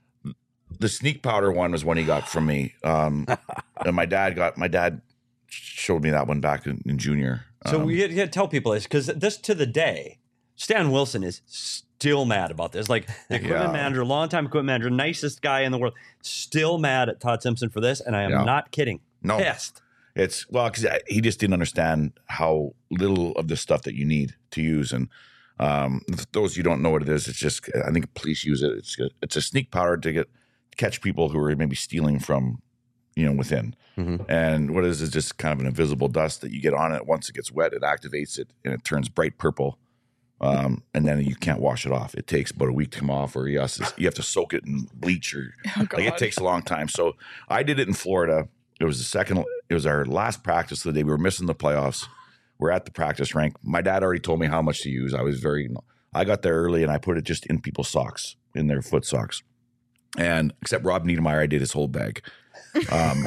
the sneak powder one was one he got from me. Um, and my dad got my dad showed me that one back in, in junior. So Um, we got to tell people this because this to the day, Stan Wilson is still mad about this. Like the equipment Yeah. manager, longtime equipment manager, nicest guy in the world, still mad at Todd Simpson for this. And I am Yeah. not kidding. No. Pissed. It's well because he just didn't understand how little of the stuff that you need to use, and um, those you don't know what it is. It's just I think police use it. It's a, it's a sneak powder to get catch people who are maybe stealing from you know within. Mhm. And what it is is just kind of an invisible dust that you get on it. Once it gets wet, it activates it and it turns bright purple, um, and then you can't wash it off. It takes about a week to come off, or you have to, you have to soak it in bleach, or Oh, like it God. takes a long time. So I did it in Florida. It was the second. It was our last practice of the day. We were missing the playoffs. We're at the practice rink. My dad already told me how much to use. I was very. I got there early and I put it just in people's socks, in their foot socks, and except Rob Niedermeyer, I did his whole bag, um,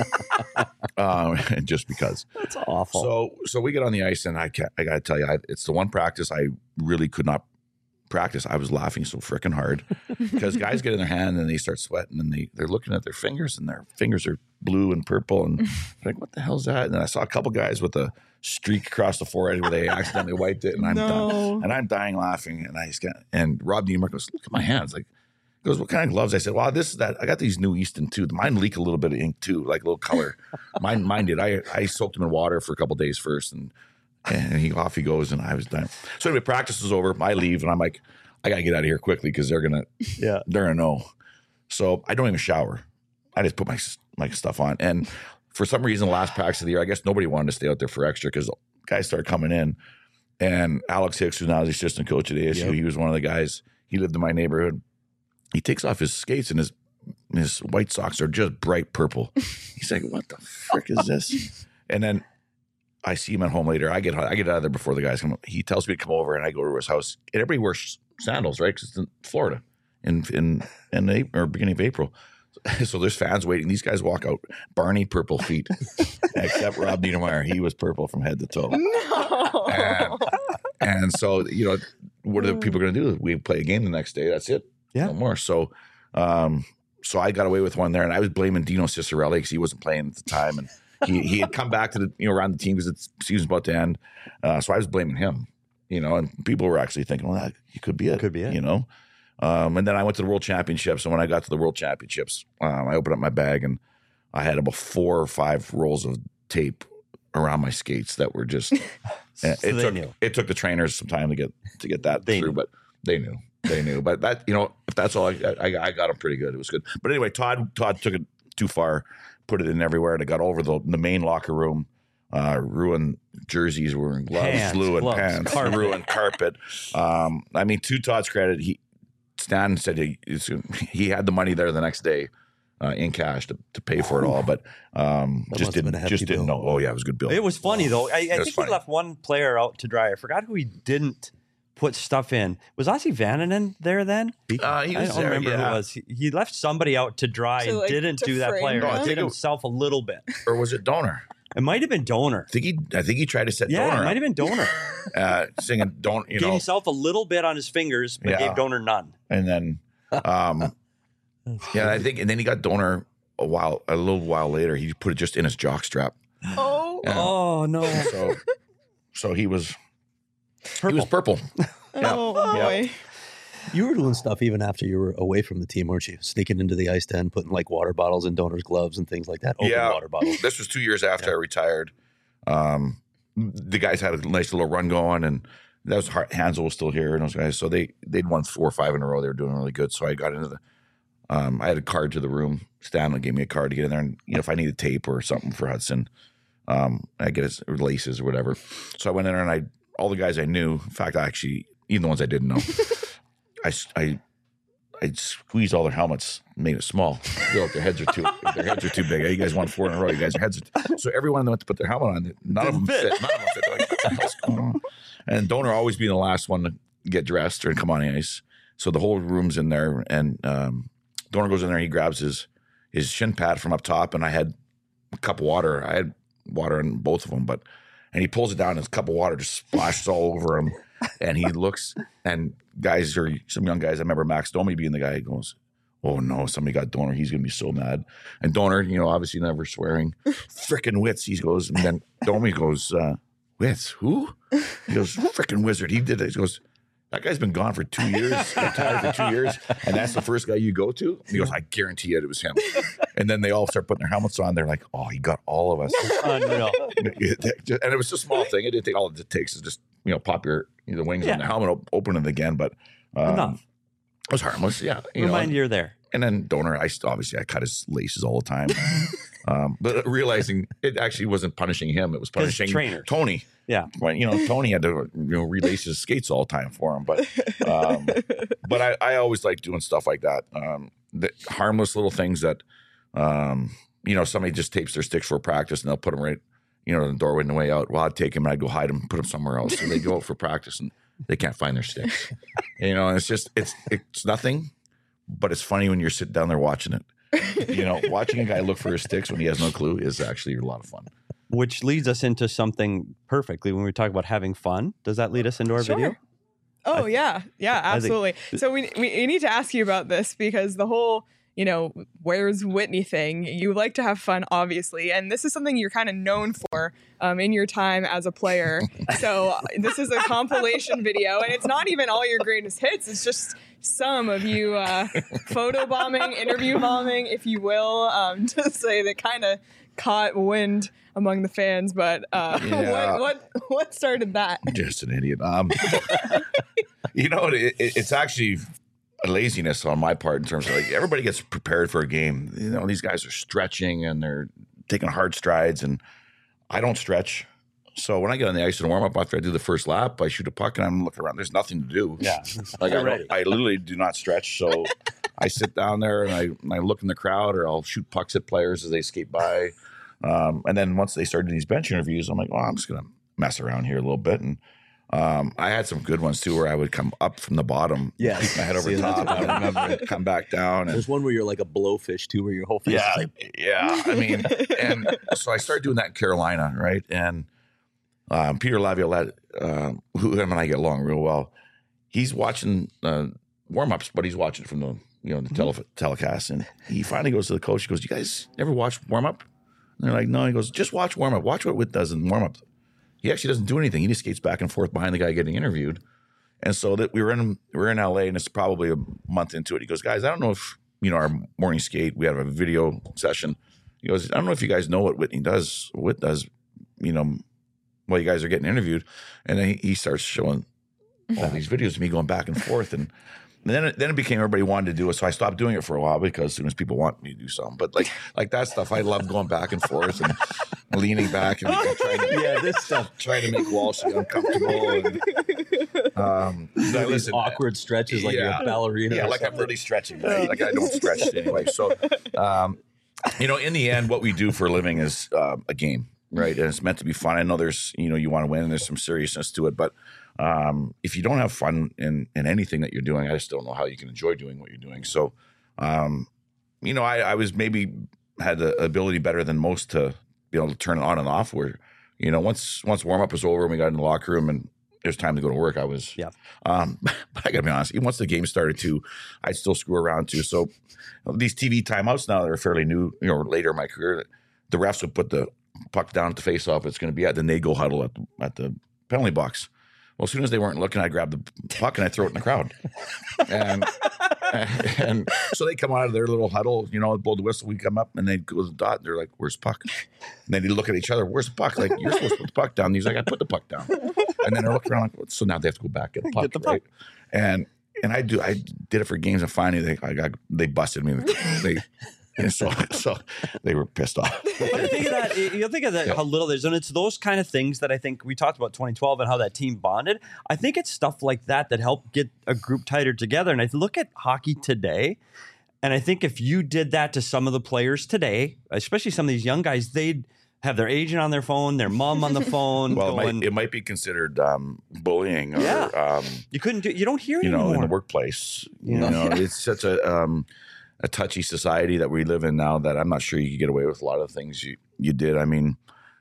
um, just because. That's awful. So so we get on the ice and I can't, I got to tell you, I, it's the one practice I really could not practice. I was laughing so freaking hard because guys get in their hand and they start sweating and they they're looking at their fingers and their fingers are blue and purple and they're like, what the hell's that? And then I saw a couple guys with a streak across the forehead where they accidentally wiped it and I'm No. dying, and I'm dying laughing and I just got and Rob Niemeyer goes, look at my hands, like. He goes, what kind of gloves? I said, well, this is that. I got these new Easton too. Mine leak a little bit of ink too, like a little color. mine, mine did. I, I soaked them in water for a couple days first, and and he off he goes, and I was done. So anyway, practice is over. I leave, and I'm like, I gotta get out of here quickly because they're gonna, yeah. they're gonna know. So I don't even shower. I just put my my stuff on, and for some reason, the last practice of the year, I guess nobody wanted to stay out there for extra because guys started coming in, and Alex Hicks, who's now the assistant coach at A S U, Yep. he was one of the guys. He lived in my neighborhood. He takes off his skates and his his white socks are just bright purple. He's like, "What the frick is this?" And then I see him at home later. I get I get out of there before the guys come. He tells me to come over, and I go to his house. And everybody wears sandals, right? Because it's in Florida, in in in April, or beginning of April. So there's fans waiting. These guys walk out, Barney purple feet, except Rob Niedermeyer. He was purple from head to toe. No. And, and so you know, what are the people going to do? We play a game the next day. That's it. Yeah. No more. So, um, so I got away with one there, and I was blaming Dino Cicerelli because he wasn't playing at the time, and he he had come back to the you know around the team because the season's about to end. Uh, so I was blaming him, you know, and people were actually thinking, well, that he could be it, Could be it. you know. Um, and then I went to the World Championships, and when I got to the World Championships, um, I opened up my bag and I had about four or five rolls of tape around my skates that were just. So it they took knew. it took the trainers some time to get to get that They through, knew. but they knew. They knew, but that you know, if that's all, I, I I got them pretty good. It was good. But anyway, Todd Todd took it too far, put it in everywhere, and it got over the the main locker room. uh, ruined jerseys, ruined gloves, Pants, ruined gloves, pants, carpet. ruined carpet. Um, I mean, to Todd's credit, he Stan said he he had the money there the next day uh, in cash to, to pay for it all, but um, That just must have been didn't a hefty just didn't bill. know. Oh yeah, it was a good bill. It was funny though. I, I was think funny. he left one player out to dry. I forgot who he didn't put stuff in. Was Ossie Vananen there then? Uh, he I was don't there, remember yeah. who it was. He, he left somebody out to dry To, and like, didn't to do that frame player. No, I He think did it- himself a little bit. Or was it Donor? It might have been Donor. I think he I think he tried to set Yeah, Donor it might have up, been Donor. uh, singing "Don't," you Gave know, himself a little bit on his fingers, but Yeah. gave Donor none. and then um, yeah, I think, and then he got Donor a while a little while later. He put it just in his jock strap. Oh, Yeah. Oh no! So so he was Purple. he was purple. oh boy. You were doing stuff even after you were away from the team, weren't you? Sneaking into the ice den, putting like water bottles in Donor's gloves and things like that. Open Yeah. water bottles. This was two years after I retired. Um, the guys had a nice little run going, and that was Har- Hansel was still here, and those guys. So they they'd won four or five in a row. They were doing really good. So I got into the. Um, I had a card to the room. Stanley gave me a card to get in there, and you know if I needed tape or something for Hudson, um, I get his or laces or whatever. So I went in there, and I all the guys I knew. In fact, I actually even the ones I didn't know, I I. I squeezed all their helmets, made it small. Feel like their heads are too their heads are too big. You guys won four in a row. You guys your heads are so everyone that went to put their helmet on, none of them fit. None of them fit. They're like, what the hell's going on? And Donor always being the last one to get dressed or come on the ice. So the whole room's in there, and um, Donor goes in there. He grabs his his shin pad from up top, and I had a cup of water. I had water in both of them, but and he pulls it down, and his cup of water just splashes all over him. And he looks, and guys or some young guys, I remember Max Domi being the guy who goes, oh no, somebody got Donor. He's going to be so mad. And Donor, you know, obviously never swearing, frickin' Wits. He goes, and then Domi goes, uh, Wits, who? He goes, frickin' Wizard. He did it. He goes, that guy's been gone for two years, retired for two years, and that's the first guy you go to? He goes, I guarantee you it was him. And then they all start putting their helmets on. They're like, oh, he got all of us. Unreal. And it was a small thing. It didn't take all it takes is just, you know, pop your you know, the wings Yeah. on the helmet, op- open it again. But um, Enough. it was harmless. Yeah. You Remind know, you you're there. And then Donor, I st- obviously I cut his laces all the time. um, but realizing it actually wasn't punishing him, it was 'Cause punishing trainers. Tony. Yeah. When, you know, Tony had to you know relace his skates all the time for him. But um, but I, I always like doing stuff like that. Um, the harmless little things that um, you know, somebody just tapes their sticks for practice and they'll put them right, you know, in the doorway on the way out. Well, I'd take them and I'd go hide them, put them somewhere else. So they go out for practice and they can't find their sticks. You know, and it's just it's it's nothing, but it's funny when you're sitting down there watching it. You know, watching a guy look for his sticks when he has no clue is actually a lot of fun. Which leads us into something perfectly when we talk about having fun. Does that lead us into our Sure. video? Oh yeah, yeah, I think- absolutely. So we, we we need to ask you about this because the whole, you know, where's Whitney thing. You like to have fun, obviously, and this is something you're kind of known for um, in your time as a player. So uh, this is a compilation video, and it's not even all your greatest hits. It's just some of you uh, photo bombing, interview bombing, if you will, um, to say that kind of caught wind among the fans. But uh, Yeah. what what what started that? Just an idiot. Um, you know, it, it, it's actually a laziness on my part in terms of like everybody gets prepared for a game. You know, these guys are stretching and they're taking hard strides, and I don't stretch. So when I get on the ice and warm up after I do the first lap, I shoot a puck and I'm looking around. There's nothing to do. Yeah. Like I, You're don't, ready. I literally do not stretch. So I sit down there and I, and I look in the crowd, or I'll shoot pucks at players as they skate by. Um, and then once they started these bench interviews, I'm like, well, I'm just going to mess around here a little bit. And um, I had some good ones too, where I would come up from the bottom, Yeah. keep my head over See, that's top, what I and remember. I'd come back down. And There's one where you're like a blowfish too, where your whole face yeah, is like, yeah. I mean, and so I started doing that in Carolina, right? And um, Peter Laviolette, uh, who him and I get along real well, he's watching uh, warm ups, but he's watching it from the you know the tele- telecast, and he finally goes to the coach. He goes, "You guys ever watch warm up?" And they're like, "No." He goes, "Just watch warm up. Watch what Witt does in warm up." He actually doesn't do anything. He just skates back and forth behind the guy getting interviewed. And so that we were in we were in L A, and it's probably a month into it. He goes, "Guys, I don't know if you know our morning skate. We have a video session." He goes, "I don't know if you guys know what Whitney does. Whit does, you know, while you guys are getting interviewed." And then he, he starts showing all these videos of me going back and forth, and then it, then it became everybody wanted to do it. So I stopped doing it for a while because as soon as people want me to do something, but like like that stuff, I love going back and forth, and leaning back and trying to, Yeah, this stuff. trying to make Walsh uncomfortable. And, um, so I These listen, awkward stretches like yeah. you're a ballerina. Yeah, or like I'm something. really stretching. Right? Like I don't stretch anyway. So, um, you know, in the end, what we do for a living is uh, a game, right? And it's meant to be fun. I know there's, you know, you want to win and there's some seriousness to it. But um, if you don't have fun in, in anything that you're doing, I just don't know how you can enjoy doing what you're doing. So, um, you know, I, I was maybe had the ability better than most to be able to turn it on and off where, you know, once once warm up was over and we got in the locker room and it was time to go to work, I was, Yeah. um, but I gotta be honest, even once the game started too, I'd still screw around too. So these T V timeouts now that are fairly new, you know, later in my career, the refs would put the puck down at the face off it's going to be at, then they go huddle at the, at the penalty box. Well, as soon as they weren't looking, I grab the puck and I throw it in the crowd. And, and so they come out of their little huddle, you know, blow the whistle, we come up and they go to the dot. They're like, where's the puck? And then they look at each other, where's the puck? Like, you're supposed to put the puck down. And he's like, I put the puck down. And then they're looking around like, so now they have to go back and get the puck, Get the puck. right? And and I do, I did it for games and finally they I got, they busted me. They, and so, so they were pissed off. But you think of that, you think of that, Yeah. how little there's, and it's those kind of things that I think we talked about twenty twelve and how that team bonded. I think it's stuff like that that helped get a group tighter together. And I look at hockey today, and I think if you did that to some of the players today, especially some of these young guys, they'd have their agent on their phone, their mom on the phone. Well, it going, might, it might be considered um, bullying or, Yeah. um, you couldn't do, you don't hear it you know, anymore. in the workplace. You Yeah. know, it's such a um, a touchy society that we live in now that I'm not sure you could get away with a lot of things you, you did. I mean,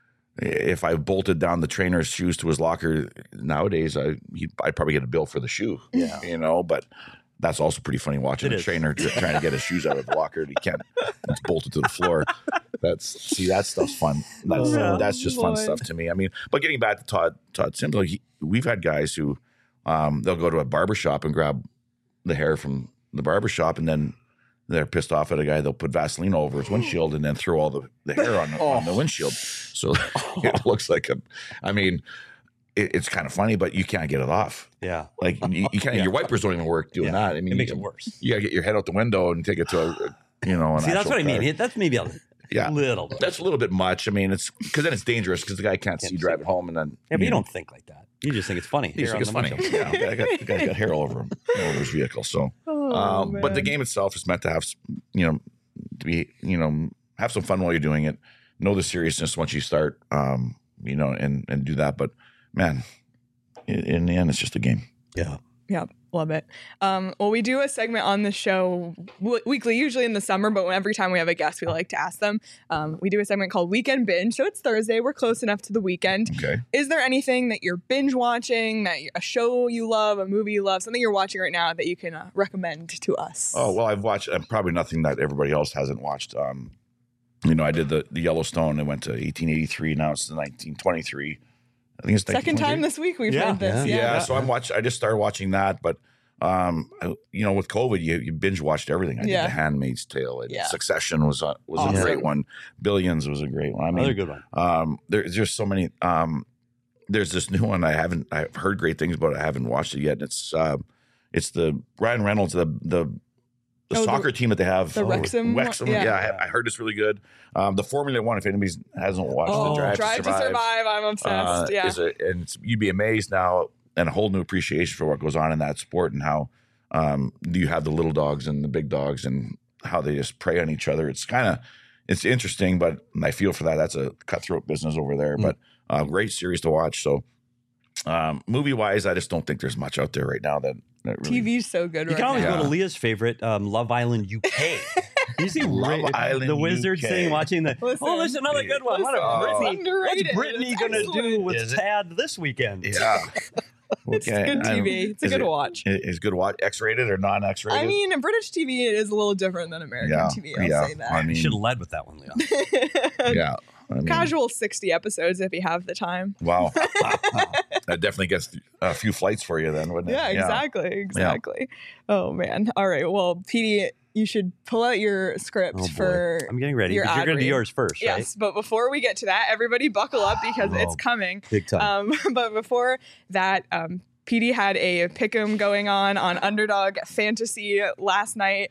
if I bolted down the trainer's shoes to his locker nowadays, I he'd, I'd probably get a bill for the shoe. Yeah. You know, but that's also pretty funny watching It a is. trainer tr- trying to get his shoes out of the locker. He can't. It's bolted to the floor. That's see, that stuff's fun. That's Oh, that's just fun Lord. stuff to me. I mean, but getting back to Todd Todd Sims, like he, we've had guys who um, they'll go to a barbershop and grab the hair from the barbershop and then they're pissed off at a guy. They'll put Vaseline over his windshield and then throw all the, the hair on the, on the windshield. So it looks like a, I mean, it, it's kind of funny, but you can't get it off. yeah. Like you, you can't, Yeah. your wipers don't even work doing Yeah. that. I mean, It makes you, it worse. You gotta get your head out the window and take it to a, a you know, an See, that's actual what I mean. car. It- That's maybe a Yeah. little bit. That's a little bit much. I mean, it's because then it's dangerous because the guy can't see Can't driving home and then Yeah, but you know, don't think like that. You just think it's funny. You just Hair think on it's the funny. windshield. Yeah, the, guy got, the guy's got hair all over him, all over his vehicle. So, Oh, um, but the man. game itself is meant to have, you know, to be, you know, have some fun while you're doing it. Know the seriousness once you start, um, you know, and and do that. But man, in, in the end, it's just a game. Yeah. Yeah, love it. Um, well, we do a segment on the show w- weekly, usually in the summer, but every time we have a guest, we like to ask them. Um, we do a segment called Weekend Binge. So it's Thursday. We're close enough to the weekend. Okay. Is there anything that you're binge watching, that you- a show you love, a movie you love, something you're watching right now that you can uh, recommend to us? Oh well, I've watched uh, probably nothing that everybody else hasn't watched. Um, you know, I did the the Yellowstone. It went to eighteen eighty-three. Now it's the nineteen twenty-three. I think it's Second time nineteen twenty-three. this week we've Yeah, heard this. Yeah, Yeah. so I'm watch. I just started watching that, but um, I- you know, with COVID, you, you binge watched everything. I Yeah. did The Handmaid's Tale. I did Yeah. Succession was a, was Awesome. a great one. Billions was a great one. I Another mean, good one. um, there's just so many. Um, there's this new one I haven't. I've heard great things about it. I haven't watched it yet. And it's uh, it's the Ryan Reynolds, the the. The Oh, the- soccer team that they have, the Wrexham one? Wrexham, Yeah. yeah, I, I heard it's really good. Um, the Formula One, if anybody hasn't watched Oh, the Drive, Drive to Survive. I'm obsessed. uh, yeah. is a, and it's, you'd be amazed now and a whole new appreciation for what goes on in that sport and how um, you have the little dogs and the big dogs and how they just prey on each other. It's kind of it's interesting, but I feel for that. That's a cutthroat business over there. Mm. But uh, great series to watch. So um, movie wise, I just don't think there's much out there right now that, that really, T V's so good You right can always now. Yeah. go to Leah's favorite, um, Love Island U K. You see Love Ra- Island the wizard U K. thing, watching the. Listen. oh, there's another good one. What Listen, a Oh. Brittany, underrated. what's Brittany It's going to do excellent. with Is it? Tad this weekend? Yeah. It's Okay, good I T V. don't- It's a is good it- watch. it- It's good to watch. X-rated or non-X-rated? I mean, in British T V, it is a little different than American yeah, T V. I'll yeah. say that. I You mean, should have led with that one, Leah. yeah. I mean, Casual sixty episodes if you have the time. Wow. That definitely gets a few flights for you then, wouldn't it? Yeah, exactly. Exactly. Oh, man. All right. Well, Petey, you should pull out your script Oh, boy. for. I'm getting ready. your Because you're ad going to do read. yours first, right? Yes, but before we get to that, everybody buckle up because Oh. it's coming. Big time. Um, but before that, um, Petey had a pick'em going on on Underdog Fantasy last night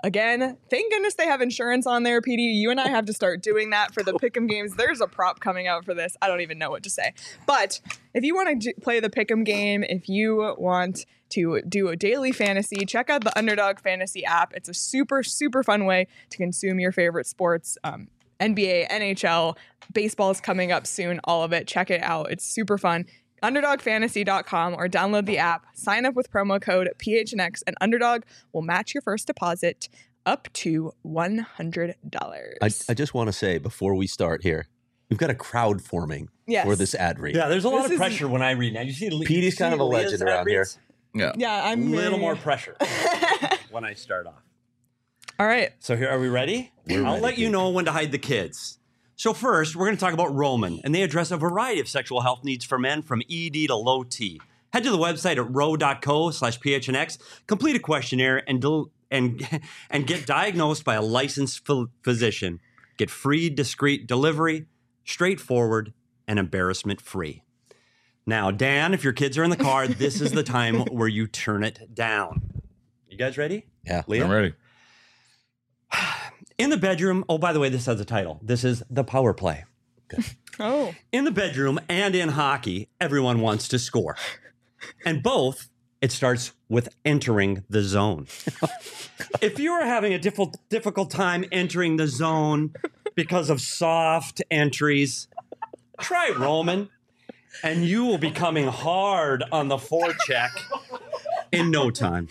Again, thank goodness they have insurance on there, P D. You and I have to start doing that for the Pick'em games. There's a prop coming out for this. I don't even know what to say. But if you want to play the Pick'em game, if you want to do a daily fantasy, check out the Underdog Fantasy app. It's a super, super fun way to consume your favorite sports. Um, N B A, N H L, baseball is coming up soon, all of it. Check it out. It's super fun. underdog fantasy dot com or download the app. Sign up with promo code P H N X and Underdog will match your first deposit up to one hundred dollars. I, I just want to say before we start here, we've got a crowd forming Yes. for this ad read. Yeah, there's a lot This of is- pressure when I read now. You see, P D's kind of a legend around here. Yeah. Yeah, A I'm little really- more pressure when I start off. All right. So here, are we ready? We're I'll ready, let you Pete. know when to hide the kids. So first, we're going to talk about Roman, and they address a variety of sexual health needs for men from E D to low T. Head to the website at ro.co slash PHNX, complete a questionnaire, and del- and and get diagnosed by a licensed ph- physician. Get free, discreet delivery, straightforward, and embarrassment-free. Now, Dan, if your kids are in the car, this is the time where you turn it down. You guys ready? Yeah. Leah? I'm ready. In the bedroom, oh, by the way, this has a title. This is The Power Play. Oh. In the bedroom and in hockey, everyone wants to score. And both, it starts with entering the zone. If you are having a diff- difficult time entering the zone because of soft entries, try Roman, and you will be coming hard on the forecheck in no time.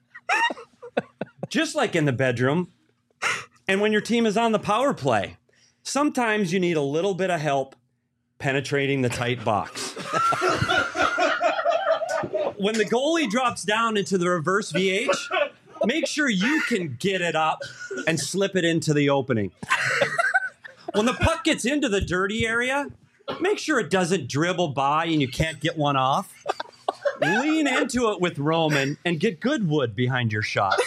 Just like in the bedroom, and when your team is on the power play, sometimes you need a little bit of help penetrating the tight box. When the goalie drops down into the reverse V H, make sure you can get it up and slip it into the opening. When the puck gets into the dirty area, make sure it doesn't dribble by and you can't get one off. Lean into it with Roman and get good wood behind your shot.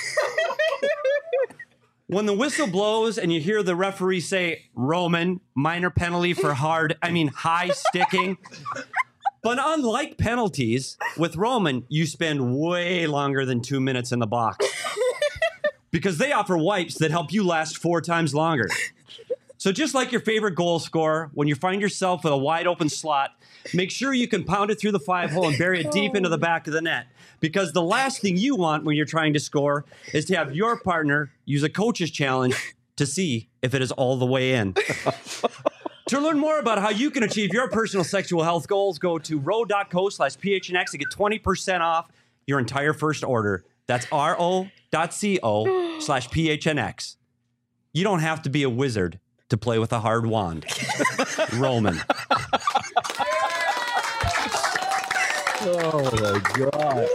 When the whistle blows and you hear the referee say, Roman, minor penalty for hard, I mean, high sticking. But unlike penalties, with Roman, you spend way longer than two minutes in the box because they offer wipes that help you last four times longer. So just like your favorite goal scorer, when you find yourself with a wide open slot, make sure you can pound it through the five hole and bury it deep into the back of the net. Because the last thing you want when you're trying to score is to have your partner use a coach's challenge to see if it is all the way in. To learn more about how you can achieve your personal sexual health goals, go to ro.co slash PHNX to get twenty percent off your entire first order. That's ro.co slash PHNX. You don't have to be a wizard to play with a hard wand. Roman. Oh my God.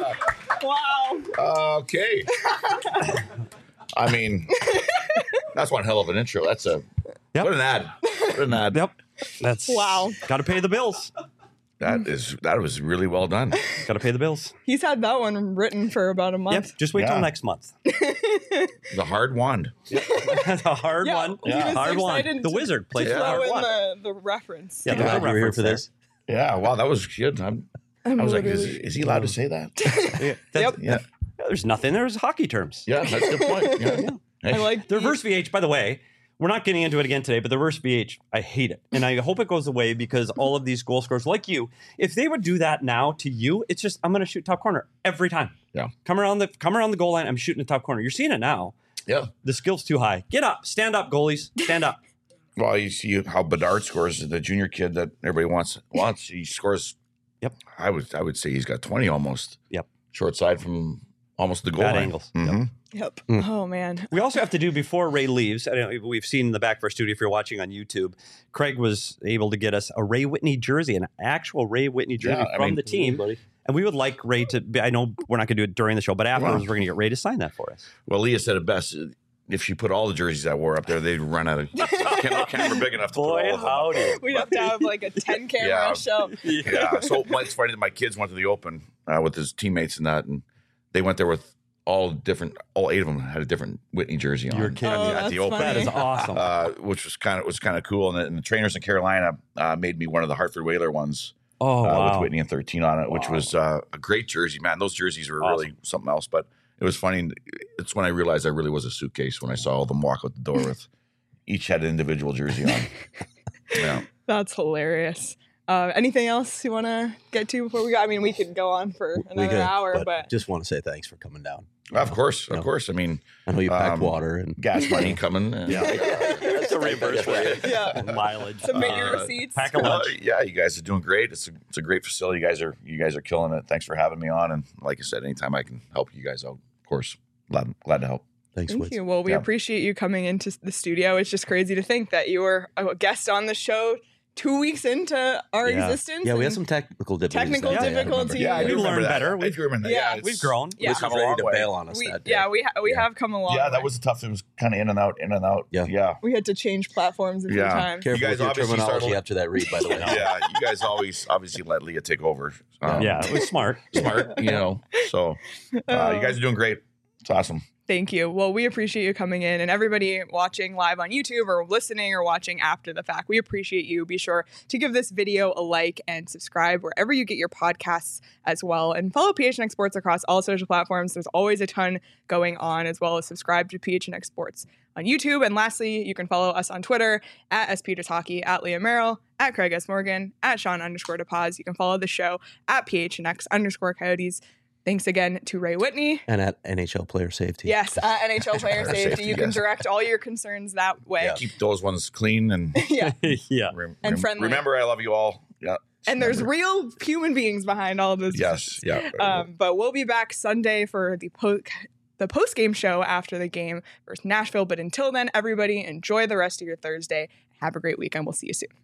Wow. Okay. I mean, that's one hell of an intro. That's a Yep. what an ad. What an ad. Yep. That's Wow. Got to pay the bills. That is that was really well done. Got to pay the bills. He's had that one written for about a month. Yep. Just wait till Yeah. next month. The hard wand. That's a hard Yeah, one. he was Hard one. excited The to- wizard plays Yeah. the Throw hard in one. the, the reference. Yeah, I'm there's glad a you were here reference for there. this. Yeah, wow, that was good. I'm, I'm I was like, is, literally- is he allowed to say that? Yeah, that's- Yep. Yeah, yeah, there's nothing. There's hockey terms. yeah, that's a good point. Yeah. I like The reverse V H, by the way, we're not getting into it again today, but the reverse V H, I hate it. And I hope it goes away because all of these goal scorers, like you, if they would do that now to you, it's just, I'm going to shoot top corner every time. Yeah. Come around the come around the goal line, I'm shooting the top corner. You're seeing it now. Yeah. The skill's too high. Get up. Stand up, goalies. Stand up. Well, you see how Bedard scores, the junior kid that everybody wants. Wants he scores. Yep. I would I would say he's got twenty almost. Yep. Short side from almost the goal Bad line. angles. Mhm. Yep. Mm. Oh, man. We also have to do before Ray leaves. I don't know, we've seen in the back of our studio if you're watching on YouTube. Craig was able to get us a Ray Whitney jersey, an actual Ray Whitney jersey Yeah, I from mean- the team. And we would like Ray to be, I know we're not going to do it during the show, but afterwards Wow. we're going to get Ray to sign that for us. Well, Leah said it best. If she put all the jerseys I wore up there, they'd run out of camera, camera big enough to put all of them. howdy. We'd have to have like a ten camera Yeah. show. Yeah. So well, it's funny that my kids went to the Open uh, with his teammates and that, and they went there with all different. All eight of them had a different Whitney jersey on. You're at kidding the- Oh, at the that's Open. That is awesome. uh, which was kind of was kind of cool. And the, and the trainers in Carolina uh, made me one of the Hartford Whaler ones oh, uh, wow. with Whitney and thirteen on it, which Wow. was uh, a great jersey. Man, those jerseys were really something else. But it was funny. It's when I realized I really was a suitcase when I saw all them walk out the door with each had an individual jersey on. Yeah. That's hilarious. Uh, anything else you want to get to before we go? I mean, we could go on for We another could, hour, but, but just want to say thanks for coming down. Of course, of No. course. I mean, I know you packed um, water and gas money coming. And, Yeah. That's a reimbursement. yeah, Mileage. submit your Uh, receipts. pack a Uh, lunch. yeah, you guys are doing great. It's a, it's a great facility. You guys are you guys are killing it. Thanks for having me on. And like I said, anytime I can help you guys out, of course, glad glad to help. Thanks, Thank Woods. you. Well, we Yeah. appreciate you coming into the studio. It's just crazy to think that you were a guest on the show two weeks into our Yeah. existence. Yeah, we had and some technical difficulties. technical that day. Yeah, yeah, difficulties. Yeah, I We do remember learned that. better. I We've- do remember that. Yeah, Yeah, it's- We've grown. Yeah. Woods come was a ready long to way. bail on us we, that day. yeah, we ha- we Yeah. have come a long Yeah, way. that was tough. It was kind of in and out, in and out. Yeah. yeah. We had to change platforms a few Yeah. times. Careful You guys with your obviously terminology started- after that read, by the way. Yeah, you guys always obviously let Leah take over. Um, Yeah, it was smart. smart, you know. So uh, you guys are doing great. It's awesome. Thank you. Well, we appreciate you coming in, and everybody watching live on YouTube or listening or watching after the fact. We appreciate you. Be sure to give this video a like and subscribe wherever you get your podcasts as well. And follow P H N X Sports across all social platforms. There's always a ton going on, as well as subscribe to P H N X Sports on YouTube. And lastly, you can follow us on Twitter at S P Hockey, at Leah Merrill, at Craig S. Morgan, at Sean underscore DePaz. You can follow the show at P H N X underscore Coyotes. Thanks again to Ray Whitney. And at N H L player safety. Yes, uh, N H L player Player safety. safety, You can yes. direct all your concerns that way. Yeah. Keep those ones clean and Yeah. yeah. rem- And rem- friendly. Remember, I love you all. Yeah. And there's Remember. real human beings behind all of those. Yes. Yeah. Um, but we'll be back Sunday for the po- the post game show after the game versus Nashville. But until then, everybody enjoy the rest of your Thursday. Have a great weekend. We'll see you soon.